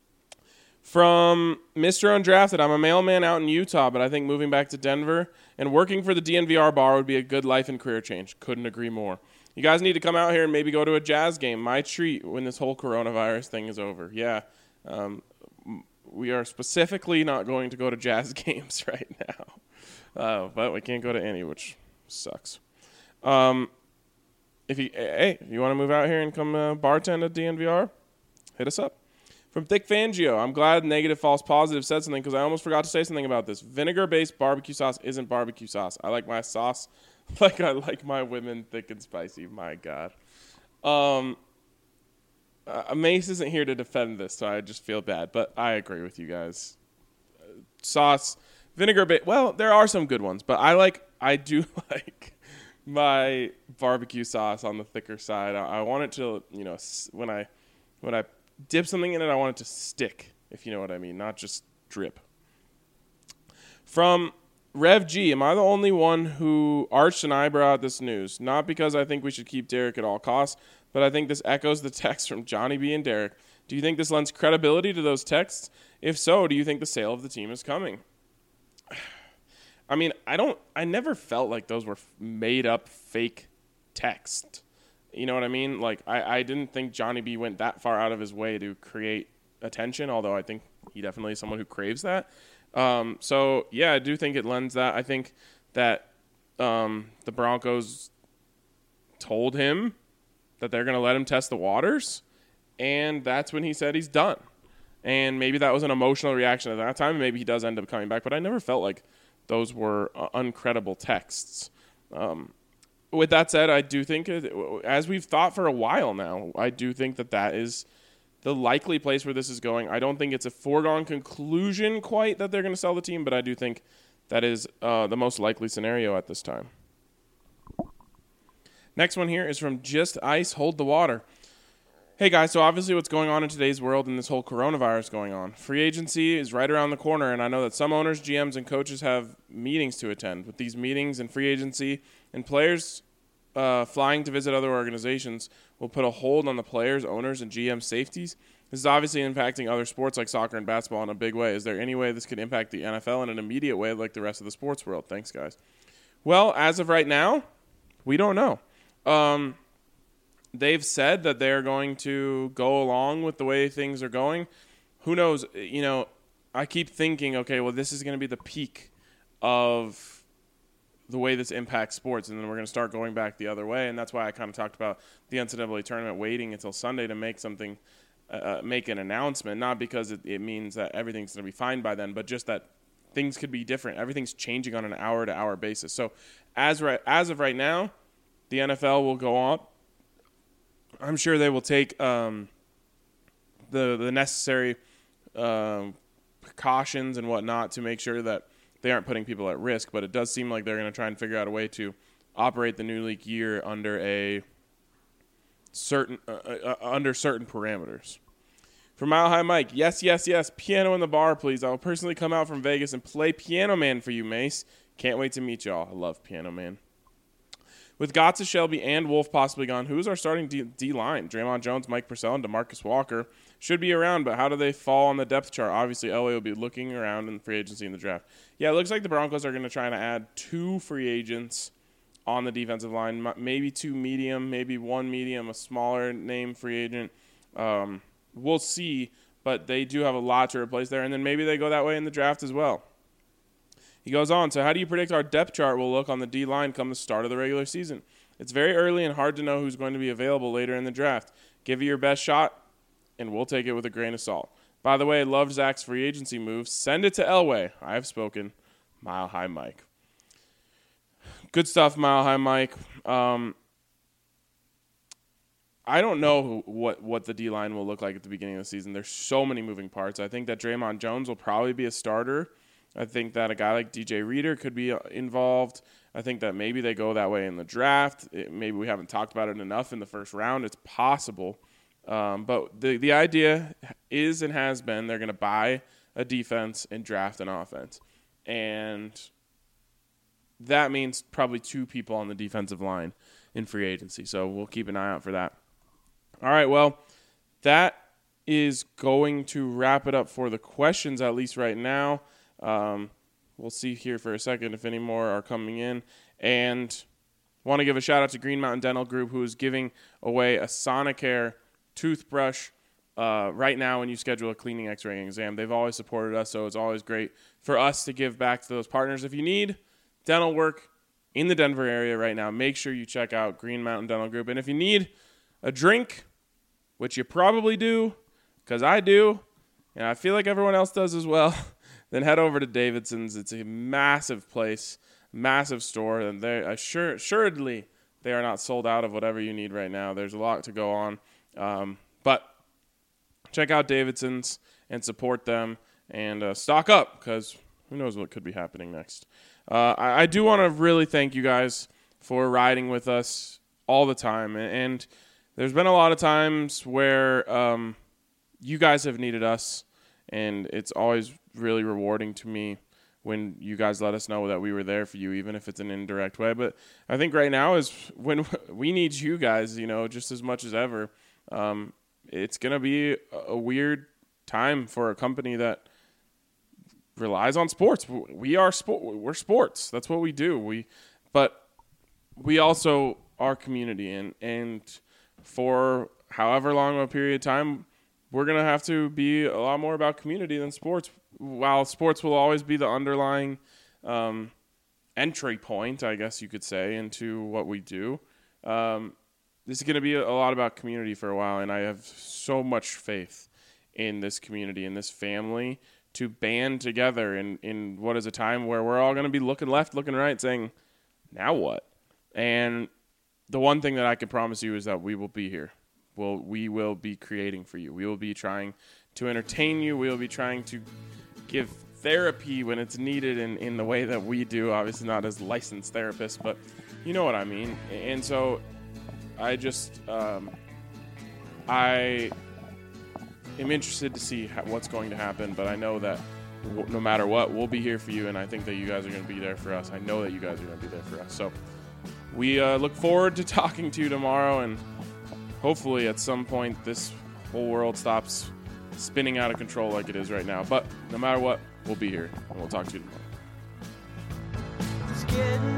From Mister Undrafted, I'm a mailman out in Utah, but I think moving back to Denver and working for the D N V R bar would be a good life and career change. Couldn't agree more. You guys need to come out here and maybe go to a Jazz game. My treat when this whole coronavirus thing is over. Yeah, um, we are specifically not going to go to Jazz games right now. Uh, but we can't go to any, which sucks. Um, if you Hey, if you want to move out here and come uh, bartend at D N V R, hit us up. From Thick Fangio, I'm glad Negative False Positive said something because I almost forgot to say something about this. Vinegar-based barbecue sauce isn't barbecue sauce. I like my sauce like I like my women thick and spicy. My God. Um, uh, Mace isn't here to defend this, so I just feel bad. But I agree with you guys. Uh, sauce, vinegar-based. Well, there are some good ones, but I like. I do like my barbecue sauce on the thicker side. I, I want it to, you know, when I when I dip something in it, I want it to stick, if you know what I mean, not just drip. From Rev G, am I the only one who arched an eyebrow at this news? Not because I think we should keep Derek at all costs, but I think this echoes the text from Johnny B and Derek. Do you think this lends credibility to those texts? If so, do you think the sale of the team is coming? I mean, I don't. I never felt like those were made up fake text. You know what I mean? Like, I, I didn't think Johnny B went that far out of his way to create attention, although I think he definitely is someone who craves that. Um, so, yeah, I do think it lends that. I think that um, the Broncos told him that they're going to let him test the waters, and that's when he said he's done. And maybe that was an emotional reaction at that time. Maybe he does end up coming back, but I never felt like those were uh, uncredible texts. Um, with that said, I do think, as we've thought for a while now, I do think that that is the likely place where this is going. I don't think it's a foregone conclusion quite that they're going to sell the team, but I do think that is uh, the most likely scenario at this time. Next one here is from Just Ice Hold the Water. Hey guys, so obviously what's going on in today's world and this whole coronavirus going on. Free agency is right around the corner, and I know that some owners, G Ms, and coaches have meetings to attend. With these meetings and free agency and players uh, flying to visit other organizations will put a hold on the players, owners, and G M safeties. This is obviously impacting other sports like soccer and basketball in a big way. Is there any way this could impact the N F L in an immediate way like the rest of the sports world? Thanks, guys. Well, as of right now, we don't know. Um... they've said that they're going to go along with the way things are going. Who knows? You know, I keep thinking, okay, well, this is going to be the peak of the way this impacts sports, and then we're going to start going back the other way. And that's why I kind of talked about the N C double A tournament waiting until Sunday to make something, uh, make an announcement, not because it, it means that everything's going to be fine by then, but just that things could be different. Everything's changing on an hour-to-hour basis. So as right, as of right now, the N F L will go on. I'm sure they will take um, the the necessary um, precautions and whatnot to make sure that they aren't putting people at risk. But it does seem like they're going to try and figure out a way to operate the new league year under a certain uh, uh, under certain parameters. For Mile High Mike, yes, yes, yes, piano in the bar, please. I will personally come out from Vegas and play Piano Man for you, Mace. Can't wait to meet y'all. I love Piano Man. With Gotza, Shelby, and Wolf possibly gone, who's our starting D- D-line? Draymond Jones, Mike Purcell, and DeMarcus Walker should be around, but how do they fall on the depth chart? Obviously, Elway will be looking around in free agency in the draft. Yeah, it looks like the Broncos are going to try to add two free agents on the defensive line, maybe two medium, maybe one medium, a smaller name free agent. Um, we'll see, but they do have a lot to replace there, and then maybe they go that way in the draft as well. He goes on, so how do you predict our depth chart will look on the D-line come the start of the regular season? It's very early and hard to know who's going to be available later in the draft. Give it your best shot, and we'll take it with a grain of salt. By the way, I loved Zach's free agency move. Send it to Elway. I have spoken. Mile High Mike. Good stuff, Mile High Mike. Um, I don't know who, what, what the D-line will look like at the beginning of the season. There's so many moving parts. I think that Draymond Jones will probably be a starter. I think that a guy like D J Reader could be involved. I think that maybe they go that way in the draft. It, maybe we haven't talked about it enough in the first round. It's possible. Um, but the, the idea is and has been they're going to buy a defense and draft an offense. And that means probably two people on the defensive line in free agency. So we'll keep an eye out for that. All right, well, that is going to wrap it up for the questions, at least right now. Um, we'll see here for a second if any more are coming in. And want to give a shout out to Green Mountain Dental Group, who is giving away a Sonicare toothbrush uh, right now when you schedule a cleaning x-ray exam. They've always supported us, so it's always great for us to give back to those partners. If you need dental work in the Denver area right now, make sure you check out Green Mountain Dental Group. And if you need a drink, which you probably do, because I do, and I feel like everyone else does as well, then head over to Davidson's. It's a massive place, massive store, and they assure, assuredly they are not sold out of whatever you need right now. There's a lot to go on, um, but check out Davidson's and support them and uh, stock up because who knows what could be happening next. Uh, I, I do want to really thank you guys for riding with us all the time, and, and there's been a lot of times where um, you guys have needed us, and it's always really rewarding to me when you guys let us know that we were there for you, even if it's an indirect way. But I think right now is when we need you guys, you know, just as much as ever. Um, it's going to be a weird time for a company that relies on sports. We are sport. We're sports. That's what we do. We, but we also are community, and, and for however long of a period of time, we're going to have to be a lot more about community than sports. While sports will always be the underlying um, entry point, I guess you could say, into what we do, um, this is going to be a lot about community for a while, and I have so much faith in this community, in this family, to band together in, in what is a time where we're all going to be looking left, looking right, saying, now what? And the one thing that I can promise you is that we will be here. Well, we will be creating for you. We will be trying to entertain you. We will be trying to give therapy when it's needed in, in the way that we do. Obviously not as licensed therapists, but you know what I mean. And so I just, um, I am interested to see how, what's going to happen, but I know that w- no matter what, we'll be here for you, and I think that you guys are going to be there for us. I know that you guys are going to be there for us. So we uh, look forward to talking to you tomorrow, and hopefully at some point this whole world stops spinning out of control like it is right now. But no matter what, we'll be here, and we'll talk to you tomorrow. It's getting